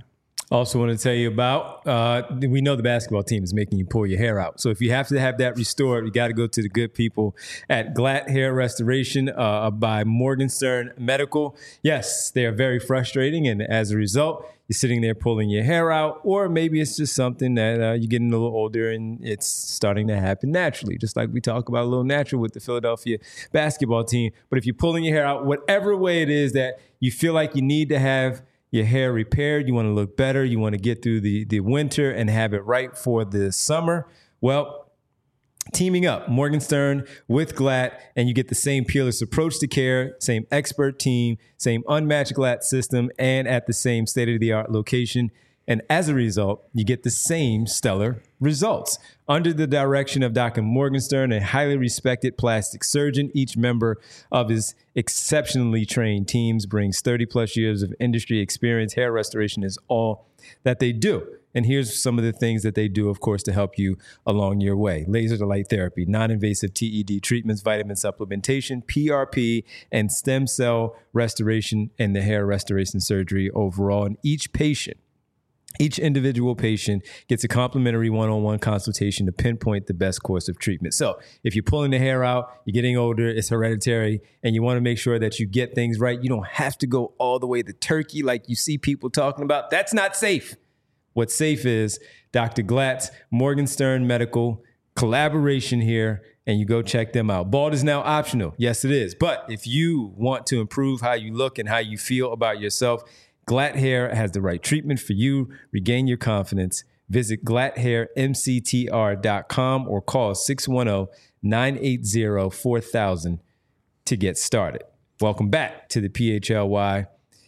Also want to tell you about, uh, we know the basketball team is making you pull your hair out. So if you have to have that restored, you got to go to the good people at Glatt Hair Restoration uh, by Morgenstern Medical. Yes, they are very frustrating. And as a result, you're sitting there pulling your hair out, or maybe it's just something that uh, you're getting a little older and it's starting to happen naturally, just like we talk about a little natural with the Philadelphia basketball team. But if you're pulling your hair out, whatever way it is that you feel like you need to have your hair repaired, you want to look better, you want to get through the, the winter and have it right for the summer, well, teaming up Morgenstern with Glatt, and you get the same peerless approach to care, same expert team, same unmatched Glatt system, and at the same state-of-the-art location. And as a result, you get the same stellar results. Under the direction of Doctor Morgenstern, a highly respected plastic surgeon, each member of his exceptionally trained teams brings thirty plus years of industry experience. Hair restoration is all that they do. And here's some of the things that they do, of course, to help you along your way. Laser to light therapy, non-invasive T E D treatments, vitamin supplementation, P R P, and stem cell restoration, and the hair restoration surgery overall. And each patient Each individual patient gets a complimentary one-on-one consultation to pinpoint the best course of treatment. So if you're pulling the hair out, you're getting older, it's hereditary, and you want to make sure that you get things right, you don't have to go all the way to turkey like you see people talking about. That's not safe. What's safe is Doctor Glatt's Morgenstern Medical collaboration here, and you go check them out. Bald is now optional. Yes, it is. But if you want to improve how you look and how you feel about yourself, Glatt Hair has the right treatment for you. Regain your confidence. Visit glatt hair m c t r dot com or call six one zero, nine eight zero, four thousand to get started. Welcome back to the P H L Y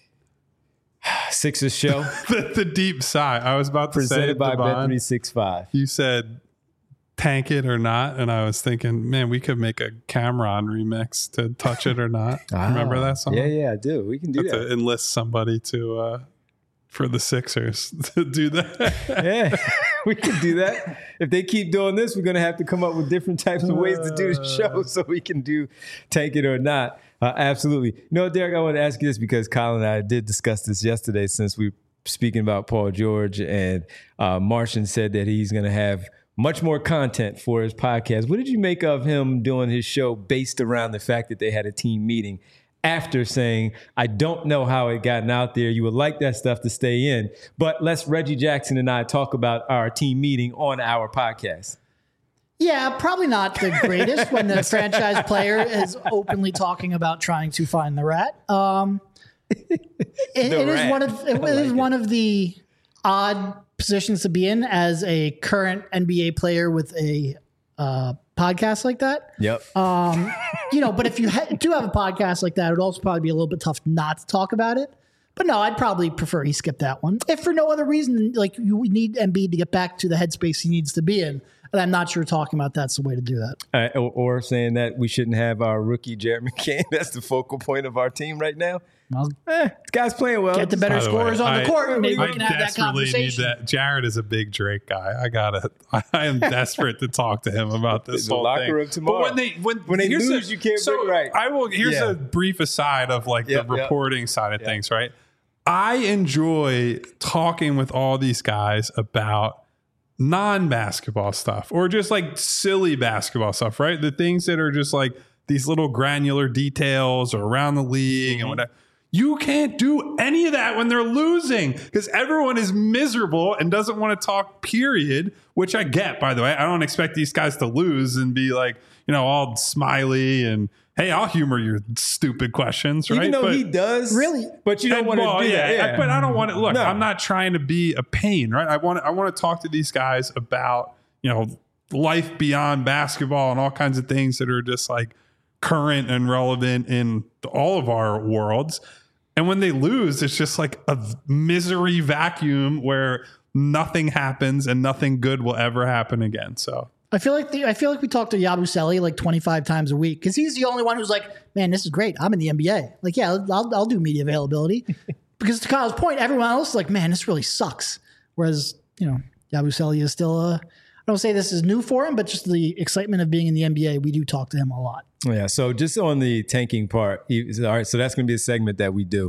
Sixers show. the, the deep sigh. I was about to say presented by Devon, Bet three sixty-five. You said tank it or not, and I was thinking, man, we could make a Cameron remix to Touch It or Not. Ah, Remember that song? Yeah, yeah, I do. We can do Have that. to enlist somebody to uh, for the Sixers to do that. Yeah, we can do that. If they keep doing this, we're going to have to come up with different types of ways to do the show so we can do Tank It or Not. Uh, absolutely. You know, Derek, I want to ask you this because Colin and I did discuss this yesterday since we were speaking about Paul George, and uh, Martian said that he's going to have much more content for his podcast. What did you make of him doing his show based around the fact that they had a team meeting after saying, I don't know how it gotten out there. You would like that stuff to stay in, but let's Reggie Jackson and I talk about our team meeting on our podcast. Yeah, probably not the greatest when the franchise player is openly talking about trying to find the rat. Um, it, it rat. is one of it, I is like one it. of the odd positions to be in as a current N B A player with a uh, podcast like that. Yep. Um, you know, but if you ha- do have a podcast like that, it would also probably be a little bit tough not to talk about it. But no, I'd probably prefer he skip that one. If for no other reason, like you we need Embiid to get back to the headspace he needs to be in. And I'm not sure talking about that's the way to do that. Uh, or, or saying that we shouldn't have our rookie Jared McCain. That's the focal point of our team right now. Well, Eh, this guy's playing well. get the better By the scorers way, on the I- court, and maybe I we can have that desperately need conversation. that. Jared is a big Drake guy. I gotta. I am desperate to talk to him about this The whole locker thing. room tomorrow. But when they when, When they here's lose, a- you can't So bring- right. I will. Here's Yeah. a brief aside of like Yep, the yep. reporting side of Yep. things. Right. I enjoy talking with all these guys about non-basketball stuff or just like silly basketball stuff. Right. The things that are just like these little granular details or around the league Mm-hmm. and whatever. You can't do any of that when they're losing because everyone is miserable and doesn't want to talk, period, which I get, by the way. I don't expect these guys to lose and be like, you know, all smiley and, hey, I'll humor your stupid questions, right? Even though But- he does. Really? But you don't and, want to well, do yeah, that. I- but I don't want to look. No. I'm not trying to be a pain, right? I want I want to talk to these guys about you know life beyond basketball and all kinds of things that are just like current and relevant in all of our worlds. And when they lose, it's just like a misery vacuum where nothing happens and nothing good will ever happen again. So I feel like the, I feel like we talk to Yabusele like twenty-five times a week because he's the only one who's like, man, this is great. I'm in the N B A. Like, yeah, I'll, I'll do media availability. Because to Kyle's point, everyone else is like, man, this really sucks. Whereas, you know, Yabusele is still, uh, I don't say this is new for him, but just the excitement of being in the N B A, we do talk to him a lot. Yeah. So just on the tanking part, he- all right. So that's going to be a segment that we do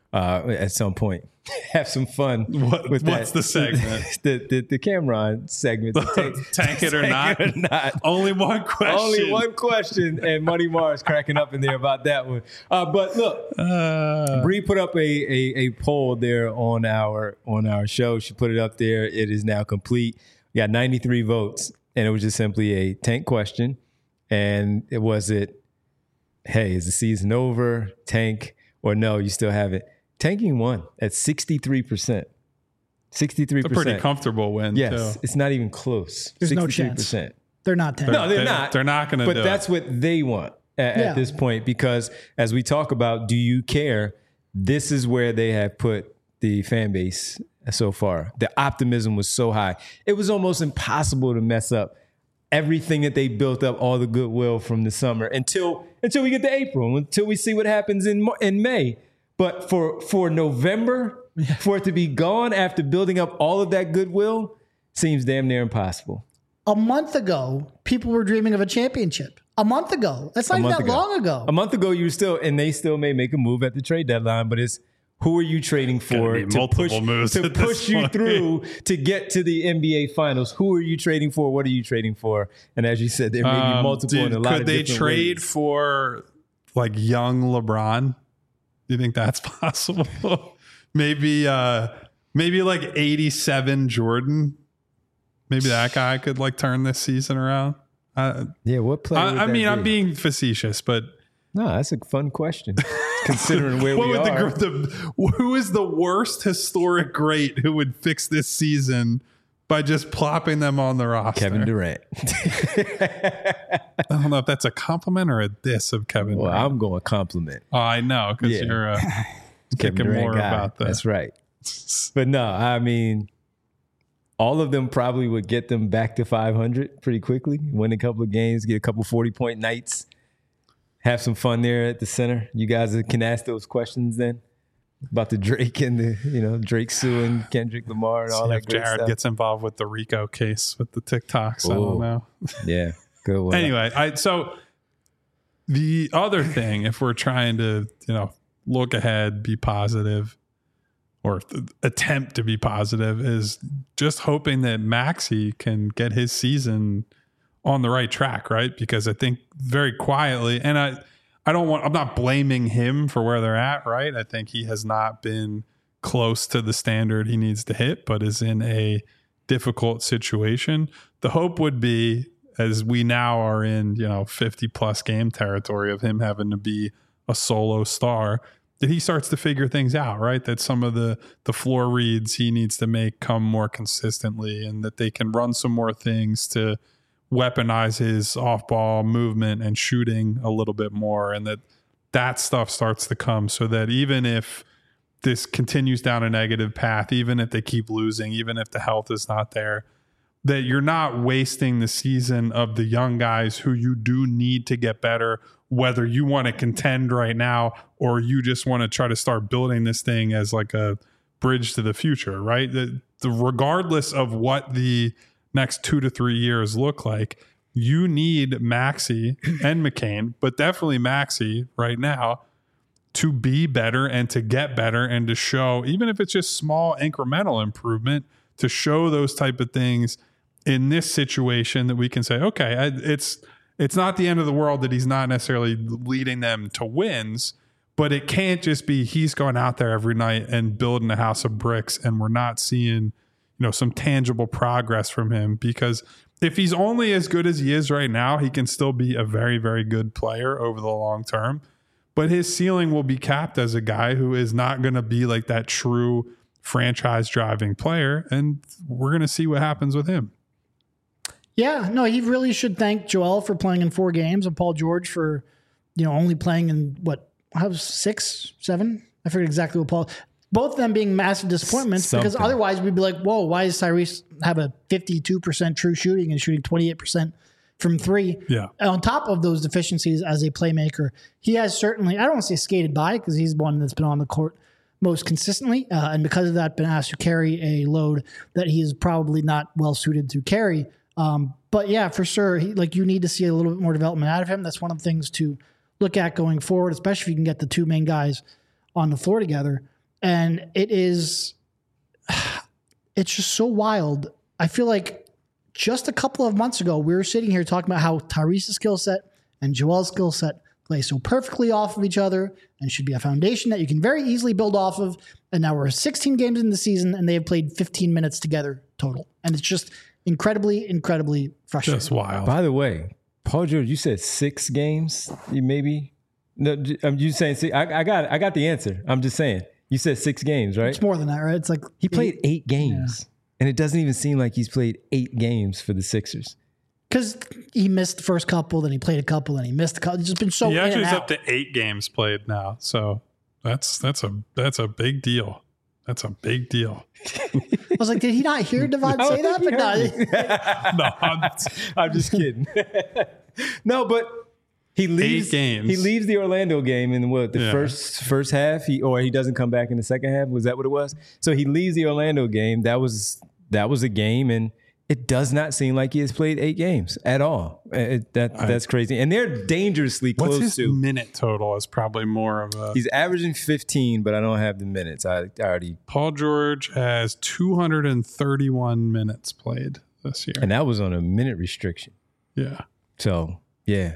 uh, at some point. Have some fun. What, with what's that. the segment? the, the the Cameron segment. The tank, tank it or not? It or not. Only one question. Only one question, and Money Mars cracking up in there about that one. Uh, but look, uh, Bree put up a, a a poll there on our on our show. She put it up there. It is now complete. We got ninety-three votes, and it was just simply a tank question. And it was it, hey, is the season over? Tank or no? You still have it. Tanking won at sixty-three percent. sixty-three percent. It's a pretty comfortable win, yes, too. It's not even close. There's no sixty-three percent. chance. They're not tanking. No, they're, they're not. They're not going to do do But that's it. what they want at, Yeah. at this point, because as we talk about, do you care? This is where they have put the fan base so far. The optimism was so high. It was almost impossible to mess up everything that they built up, all the goodwill from the summer until until we get to April, until we see what happens in in May. But for for November, yeah. for it to be gone after building up all of that goodwill seems damn near impossible. A month ago, people were dreaming of a championship. A month ago. That's not even that ago. long ago. A month ago, you were still, and they still may make a move at the trade deadline, but it's who are you trading for to push, to push you through to get to the N B A Finals? Who are you trading for? What are you trading for? And as you said, there may be um, multiple dude, and a lot could of they different trade ways. for like young LeBron? Do you think that's possible? maybe, uh, maybe like eighty-seven Jordan. Maybe that guy could like turn this season around. Uh, yeah, what player? I, I mean, be? I'm being facetious, but no, that's a fun question. Considering where what we would are, the, the, who is the worst historic great who would fix this season by just plopping them on the roster? Kevin Durant. I don't know if that's a compliment or a diss of Kevin Well, Durant. I'm going to compliment. Oh, I know, because Yeah. you're uh, Kevin thinking Durant more guy. about that. That's right. But no, I mean, all of them probably would get them back to five hundred pretty quickly, win a couple of games, get a couple forty-point nights, have some fun there at the center. You guys can ask those questions then about the Drake and the, you know, Drake suing Kendrick Lamar and all See that if great Jared stuff. gets involved with the Rico case with the TikToks. I Ooh. don't know. Yeah, good one. Anyway, I so the other thing, if we're trying to, you know, look ahead, be positive, or th- attempt to be positive, is just hoping that Maxey can get his season on the right track, right? Because I think very quietly, and I, I don't want, I'm not blaming him for where they're at, right? I think he has not been close to the standard he needs to hit, but is in a difficult situation. The hope would be, as we now are in, you know, fifty plus game territory of him having to be a solo star, that he starts to figure things out, right? That some of the the floor reads he needs to make come more consistently, and that they can run some more things to weaponize his off-ball movement and shooting a little bit more, and that that stuff starts to come, so that even if this continues down a negative path, even if they keep losing, even if the health is not there, that you're not wasting the season of the young guys who you do need to get better, whether you want to contend right now or you just want to try to start building this thing as like a bridge to the future, right? The, the regardless of what the next two to three years look like, you need Maxey and McCain, but definitely Maxey right now, to be better and to get better and to show, even if it's just small incremental improvement, to show those type of things in this situation that we can say, okay, I, it's it's not the end of the world that he's not necessarily leading them to wins, but it can't just be he's going out there every night and building a house of bricks and we're not seeing, you know, some tangible progress from him. Because if he's only as good as he is right now, he can still be a very, very good player over the long term. But his ceiling will be capped as a guy who is not going to be like that true franchise driving player. And we're going to see what happens with him. Yeah, no, he really should thank Joel for playing in four games and Paul George for, you know, only playing in what, how six, seven? I forget exactly what Paul. Both of them being massive disappointments. Something. Because otherwise we'd be like, whoa, why does Tyrese have a fifty-two percent true shooting and shooting twenty-eight percent from three? Yeah. On top of those deficiencies as a playmaker, he has certainly, I don't want to say skated by, because he's one that's been on the court most consistently, uh, and because of that, been asked to carry a load that he is probably not well suited to carry. Um, but yeah, for sure, he, like you need to see a little bit more development out of him. That's one of the things to look at going forward, especially if you can get the two main guys on the floor together. And it is, it's just so wild. I feel like just a couple of months ago, we were sitting here talking about how Tyrese's skill set and Joel's skill set play so perfectly off of each other and should be a foundation that you can very easily build off of. And now we're sixteen games in the season and they have played fifteen minutes together total. And it's just incredibly, incredibly frustrating. Just wild. By the way, Paul George, you said six games, you maybe? No, I'm you saying six? I, I got I got the answer. I'm just saying. You said six games, right? It's more than that, right? It's like he played eight, eight games. Yeah. And it doesn't even seem like he's played eight games for the Sixers. Because he missed the first couple, then he played a couple, then he missed a couple. It's just been so. He actually is out. up to eight games played now, so that's that's a that's a big deal. That's a big deal. I was like, did he not hear Devon no, say that? But no, no, I'm, I'm just kidding. No, but he leaves. Eight games. He leaves the Orlando game in what the yeah. first first half. He or he doesn't come back in the second half. Was that what it was? So he leaves the Orlando game. That was that was a game and. It does not seem like he has played eight games at all. It, that that's crazy, and they're dangerously close What's his to. Minute total is probably more of a. He's averaging fifteen, but I don't have the minutes. I, I already. Paul George has two hundred thirty-one minutes played this year, and that was on a minute restriction. Yeah. So yeah,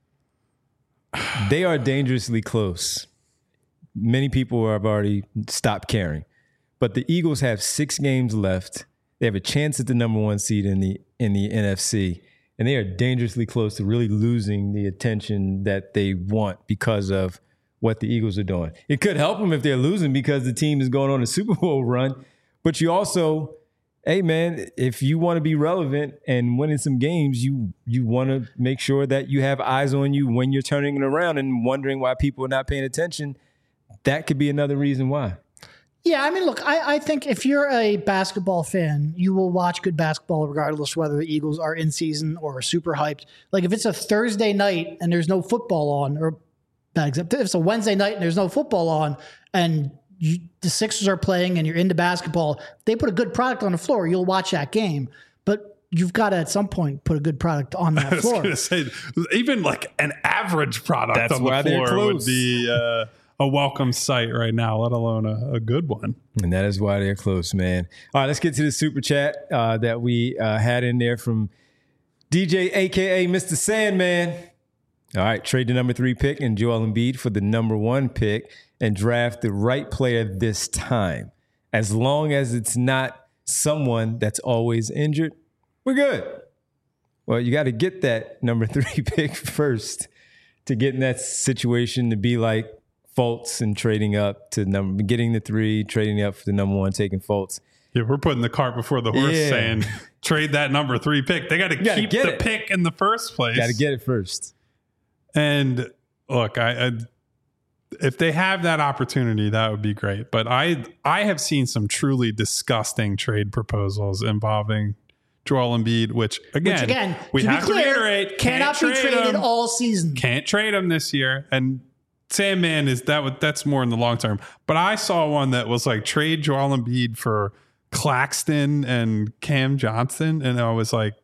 they are dangerously close. Many people have already stopped caring, but the Eagles have six games left. They have a chance at the number one seed in the in the N F C, and they are dangerously close to really losing the attention that they want because of what the Eagles are doing. It could help them if they're losing because the team is going on a Super Bowl run, but you also, hey man, if you want to be relevant and winning some games, you you want to make sure that you have eyes on you when you're turning it around and wondering why people are not paying attention. That could be another reason why. Yeah, I mean, look, I, I think if you're a basketball fan, you will watch good basketball regardless whether the Eagles are in season or super hyped. Like if it's a Thursday night and there's no football on, or bad example, if it's a Wednesday night and there's no football on, and you, the Sixers are playing and you're into basketball, they put a good product on the floor, you'll watch that game. But you've got to at some point put a good product on that floor. I was going to say, even like an average product That's on the why floor would be. Uh, A welcome sight right now, let alone a, a good one. And that is why they're close, man. All right, let's get to the super chat uh, that we uh, had in there from D J, a k a. Mister Sandman. All right, trade the number three pick and Joel Embiid for the number one pick and draft the right player this time. As long as it's not someone that's always injured, we're good. Well, you got to get that number three pick first to get in that situation to be like, Fultz and trading up to number, getting the three, trading up for the number one, taking Fultz. Yeah, we're putting the cart before the horse, yeah. saying trade that number three pick. They got to keep the it. pick in the first place. Got to get it first. And look, I, I if they have that opportunity, that would be great. But I I have seen some truly disgusting trade proposals involving Joel Embiid, which again, which again we have clear, to reiterate, cannot be traded him. all season. Can't trade him this year, and. Sandman is that that's more in the long term. But I saw one that was like trade Joel Embiid for Claxton and Cam Johnson. And I was like,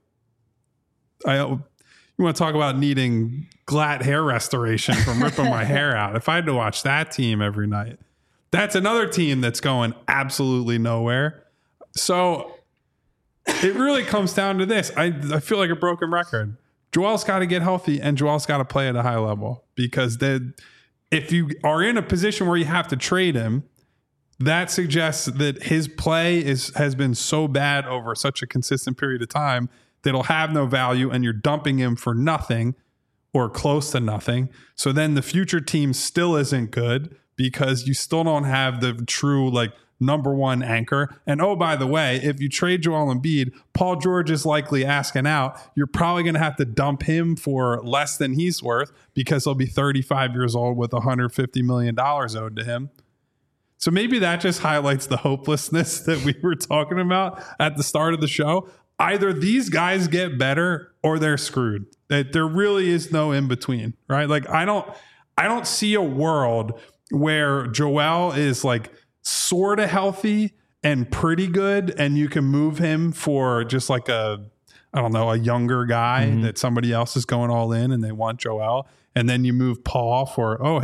I you want to talk about needing glatt hair restoration from ripping my hair out. If I had to watch that team every night, that's another team that's going absolutely nowhere. So it really comes down to this. I, I feel like a broken record. Joel's got to get healthy and Joel's got to play at a high level because they if you are in a position where you have to trade him, that suggests that his play is has been so bad over such a consistent period of time that it'll have no value and you're dumping him for nothing or close to nothing. So then the future team still isn't good because you still don't have the true like number one anchor. And oh, by the way, if you trade Joel Embiid, Paul George is likely asking out. You're probably going to have to dump him for less than he's worth because he'll be thirty-five years old with one hundred fifty million dollars owed to him. So maybe that just highlights the hopelessness that we were talking about at the start of the show. Either these guys get better or they're screwed. That there really is no in between, right? Like I don't, I don't see a world where Joel is like sort of healthy and pretty good, and you can move him for just like a, I don't know, a younger guy mm-hmm. that somebody else is going all in and they want Joel. And then you move Paul for, oh, hey,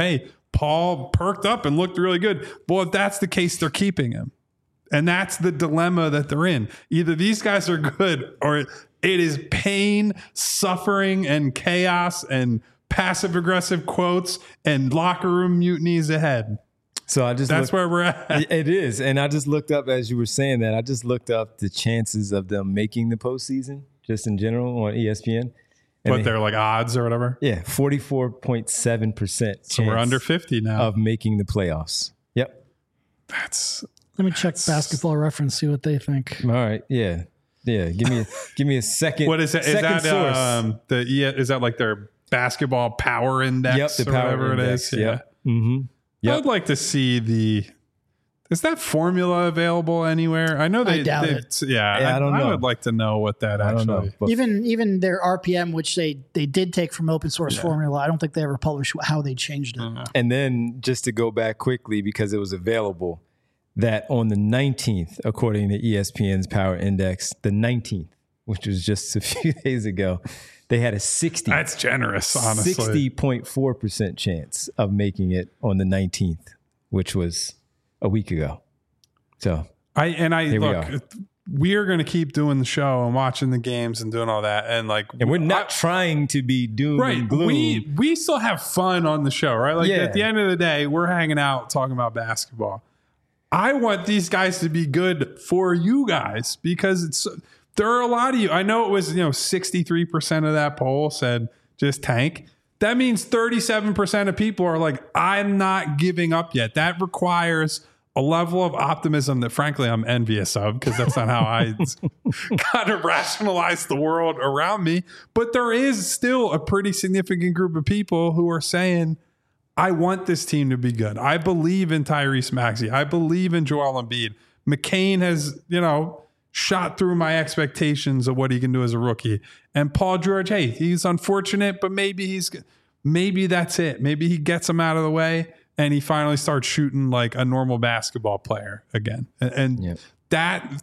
Paul perked up and looked really good. Well, if that's the case, they're keeping him. And that's the dilemma that they're in. Either these guys are good or it is pain, suffering, and chaos and passive aggressive quotes and locker room mutinies ahead. So I just that's looked, where we're at. It is. And I just looked up, as you were saying that, I just looked up the chances of them making the postseason just in general on E S P N. And What, they're like odds or whatever? Yeah, forty-four point seven percent chance So we're under fifty now. of making the playoffs. Yep. That's Let me check Basketball Reference, see what they think. All right. Yeah. Yeah. Give me a, give me a second. what is it? Is second that source. um, the is that like their basketball power index Yep, the or power whatever index. it is? Yep. Mm-hmm. Yep. I'd like to see the. Is that formula available anywhere? I know they. I doubt they- it. Yeah, Yeah, I don't I know. would like to know what that I actually. don't know. But Even even their R P M, which they, they did take from open source formula, I don't think they ever published how they changed it. Uh-huh. And then just to go back quickly, because it was available, that on the nineteenth, according to E S P N's Power Index, the nineteenth, which was just a few days ago, they had a sixty. That's generous, honestly. sixty point four percent chance of making it on the nineteenth, which was a week ago. So I and I Here we look. are. We are going to keep doing the show and watching the games and doing all that, and like, and we're not I- trying to be doom right. and gloom. We we still have fun on the show, right? Like Yeah. at the end of the day, we're hanging out talking about basketball. I want these guys to be good for you guys because it's there are a lot of you. I know it was, you know, sixty-three percent of that poll said just tank. That means thirty-seven percent of people are like, I'm not giving up yet. That requires a level of optimism that frankly I'm envious of because that's not how I kind of rationalize the world around me. But there is still a pretty significant group of people who are saying, I want this team to be good. I believe in Tyrese Maxey. I believe in Joel Embiid. McCain has, you know, shot through my expectations of what he can do as a rookie. And Paul George, hey, he's unfortunate, but maybe he's maybe that's it. Maybe he gets him out of the way and he finally starts shooting like a normal basketball player again. And, and Yep. that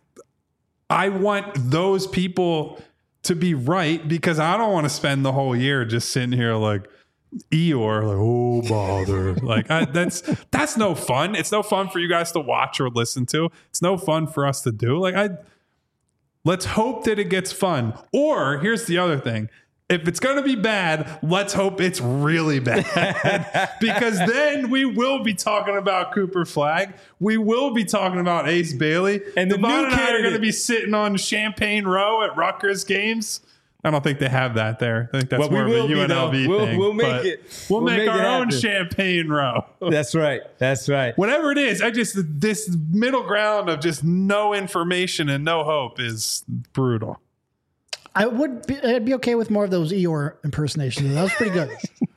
I want those people to be right because I don't want to spend the whole year just sitting here like Eeyore, like, oh bother. like I, that's that's no fun. It's no fun for you guys to watch or listen to. It's no fun for us to do. Like I let's hope that it gets fun. Or here's the other thing. If it's going to be bad, let's hope it's really bad because then we will be talking about Cooper Flagg. We will be talking about Ace Bailey. And the Devon new and I are going to candidate- be sitting on Champagne Row at Rutgers games. I don't think they have that there. I think that's Well, we more will of a be, U N L V though. We'll- thing. we'll make but it. We'll, We'll make, make our it own happen. Champagne Row. That's right. That's right. Whatever it is, I just this middle ground of just no information and no hope is brutal. I would be, I'd be okay with more of those Eeyore impersonations. That was pretty good.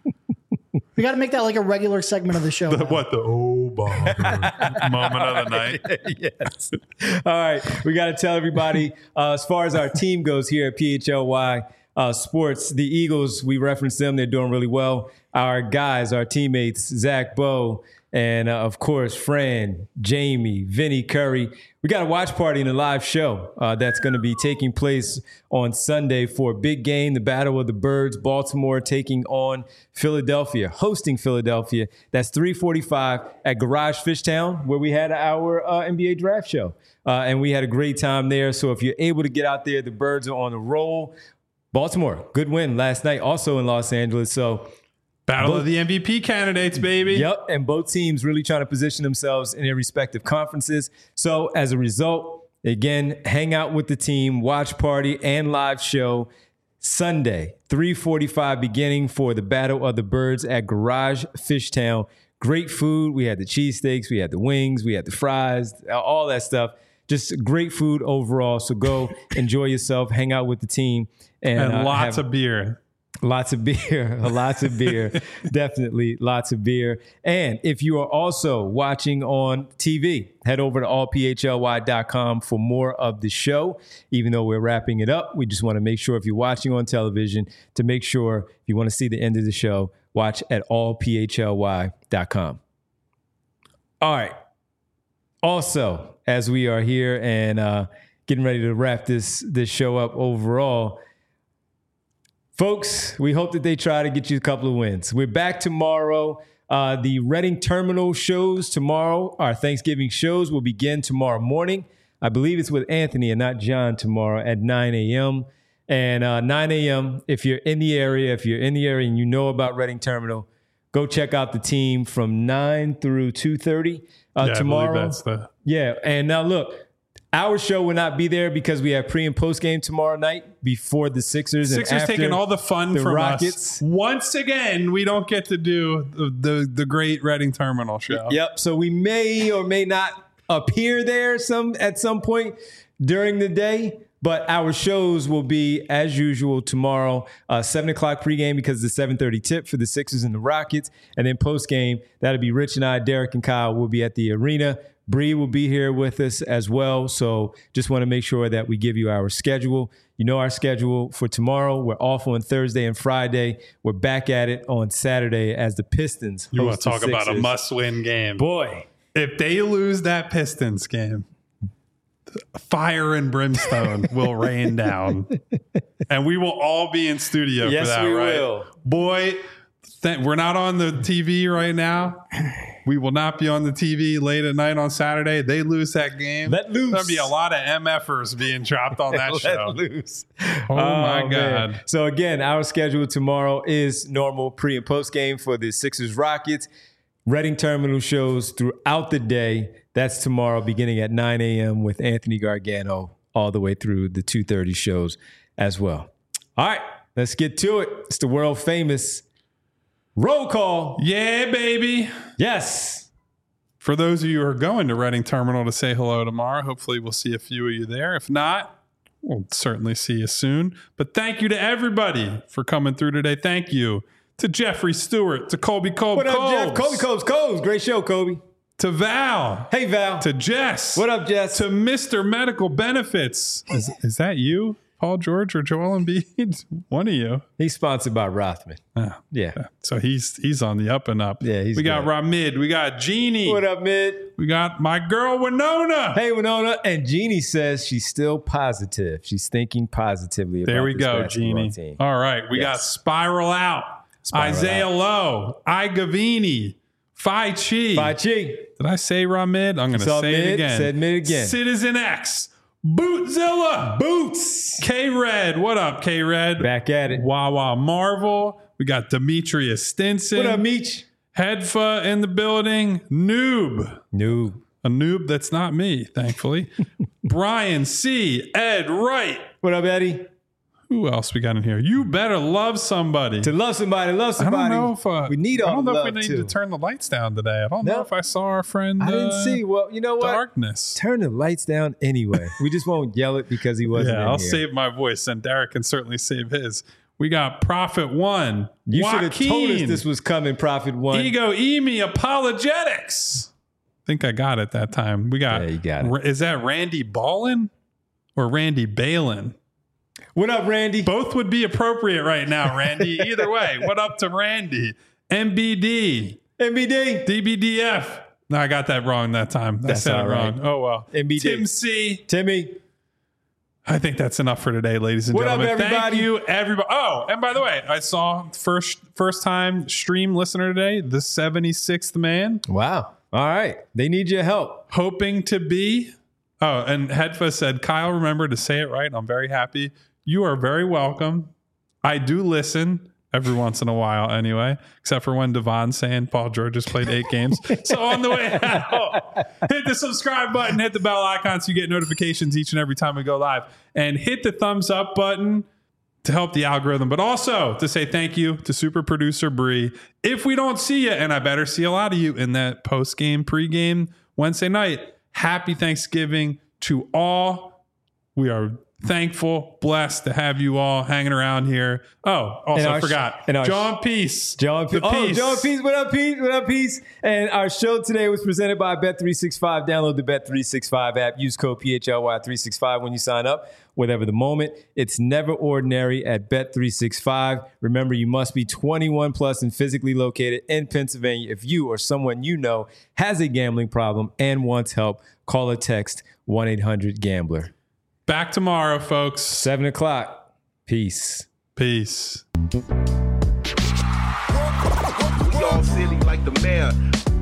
We got to make that like a regular segment of the show. The, now. what the oh bother moment of the night. Yes. All right. We got to tell everybody, uh, as far as our team goes here at P H L Y uh, Sports, the Eagles, we referenced them. They're doing really well. Our guys, our teammates, Zach Bowe, and uh, of course, Fran, Jamie, Vinny Curry. We got a watch party and a live show uh, that's going to be taking place on Sunday for a big game, the Battle of the Birds, Baltimore taking on Philadelphia, hosting Philadelphia. That's three forty-five at Garage Fishtown, where we had our uh, N B A draft show. Uh, and we had a great time there. So if you're able to get out there, the Birds are on the roll. Baltimore, good win last night, also in Los Angeles. So Battle Both- of the M V P candidates, baby. Yep, and both teams really trying to position themselves in their respective conferences. So as a result, again, hang out with the team, watch party, and live show Sunday, three forty-five beginning for the Battle of the Birds at Garage Fishtown. Great food. We had the cheesesteaks, we had the wings, we had the fries, all that stuff. Just great food overall. So go enjoy yourself, hang out with the team. And, And uh, lots have- of beer. Lots of beer, lots of beer, definitely lots of beer. And if you are also watching on T V, head over to all p h l y dot com for more of the show. Even though we're wrapping it up, we just want to make sure if you're watching on television to make sure if you want to see the end of the show, watch at all p h l y dot com. All right. Also, as we are here and uh, getting ready to wrap this this show up overall, folks, we hope that they try to get you a couple of wins. We're back tomorrow. Uh, the Reading Terminal shows tomorrow, our Thanksgiving shows, will begin tomorrow morning. I believe it's with Anthony and not John tomorrow at nine a.m. And uh, nine a.m., if you're in the area, if you're in the area and you know about Reading Terminal, go check out the team from nine through two thirty uh, yeah, tomorrow. I believe that's the... Yeah, and now look, our show will not be there because we have pre and post game tomorrow night before the Sixers. Sixers and after taking all the fun the from Rockets. us. Once again, we don't get to do the, the, the great Reading Terminal show. Yep. So we may or may not appear there some at some point during the day. But our shows will be, as usual, tomorrow, uh, seven o'clock pregame because the seven thirty tip for the Sixers and the Rockets. And then postgame, that'll be Rich and I, Derek and Kyle will be at the arena. Bree will be here with us as well. So just want to make sure that we give you our schedule. You know our schedule for tomorrow. We're off on Thursday and Friday. We're back at it on Saturday as the Pistons You want host to talk the about a Sixers. must-win game. Boy. If they lose that Pistons game, fire and brimstone will rain down. And we will all be in studio Yes, for that, we right? will. Boy, th- we're not on the T V right now. We will not be on the T V late at night on Saturday. They lose that game. Let loose. There'll be a lot of MFers being dropped on that Let show. loose. Oh, my man. God. So again, our schedule tomorrow is normal pre and post game for the Sixers Rockets. Reading Terminal shows throughout the day. That's tomorrow beginning at nine a.m. with Anthony Gargano all the way through the two thirty shows as well. All right, let's get to it. It's the world famous roll call. Yeah, baby. Yes. For those of you who are going to Reading Terminal to say hello tomorrow, hopefully we'll see a few of you there. If not, we'll certainly see you soon. But thank you to everybody for coming through today. Thank you to Jeffrey Stewart, to Colby Colb What up, Coles, Jeff? Kobe Coles. Coles. Great show, Kobe. to Val, Hey, Val. to Jess, What up, Jess? to Mister Medical Benefits. Is, is that you, Paul George, or Joel Embiid? One of you. He's sponsored by Rothman. Ah, Yeah. so he's he's on the up and up. Yeah, he's we got good. Ramid, we got Jeannie, What up, Mid? we got my girl Winona. Hey, Winona. And Jeannie says she's still positive. She's thinking positively about There we this go, basketball Jeannie. team. All right, we got Yes. Spiral Out, Spiral Isaiah Out. Lowe, I Gavini, Phi Chi. Phi Chi. Did I say Ramid? I'm going to Saw say mid, it again. said mid again. Citizen X, Bootzilla, Boots. K Red. What up, K Red? Back at it. Wawa Marvel. We got Demetrius Stinson. What up, Meech? Headfa in the building. Noob. No. A noob that's not me, thankfully. Brian C. Ed Wright. What up, Eddie? Who else we got in here? You better love somebody. To love somebody, love I somebody. don't know if uh, we need all I don't know the if love we need too. to turn the lights down today. I don't No. know if I saw our friend. I didn't uh, see. Well, you know what? Darkness. Turn the lights down anyway. We just won't yell it because he wasn't Yeah, in I'll here. save my voice, and Derek can certainly save his. We got Prophet One. You should have told us Joaquin, this was coming, Prophet One. Ego Emi Apologetics. I think I got it that time. We got. Yeah, you got it. Ra- Is that Randy Ballin or Randy Balin? What up, Randy? Both would be appropriate right now, Randy. Either way, what up to Randy? M B D, M B D. D B D F. No, I got that wrong that time. I That's said it all right. wrong. Oh well. M B D. Tim C. Timmy. I think that's enough for today, ladies and What up, gentlemen. everybody? Thank you, everybody. Oh, and by the way, I saw first first time stream listener today, the seventy-sixth man, Wow. All right. They need your help. hoping to be. Oh, and Hedfa said, Kyle, remember to say it right. I'm very happy. You are very welcome. I do listen every once in a while anyway, except for when Devon's saying Paul George has played eight games. So on the way out, hit the subscribe button, hit the bell icon so you get notifications each and every time we go live, and hit the thumbs up button to help the algorithm, but also to say thank you to super producer Bree. If we don't see you, and I better see a lot of you in that post-game, pre-game Wednesday night, happy Thanksgiving to all. We are thankful, blessed to have you all hanging around here. Oh, also And our I forgot. sh- and our John Peace. John P- The Oh, Peace. John Peace. What up, Peace? What up, Peace? And our show today was presented by Bet three sixty-five. Download the Bet three sixty-five app. Use code P H L Y three sixty-five when you sign up. Whatever the moment, it's never ordinary at Bet three sixty-five. Remember, you must be twenty-one plus and physically located in Pennsylvania. If you or someone you know has a gambling problem and wants help, call or text one eight hundred gambler. Back tomorrow, folks. seven o'clock. Peace. Peace. Yo, Ball City like the mayor.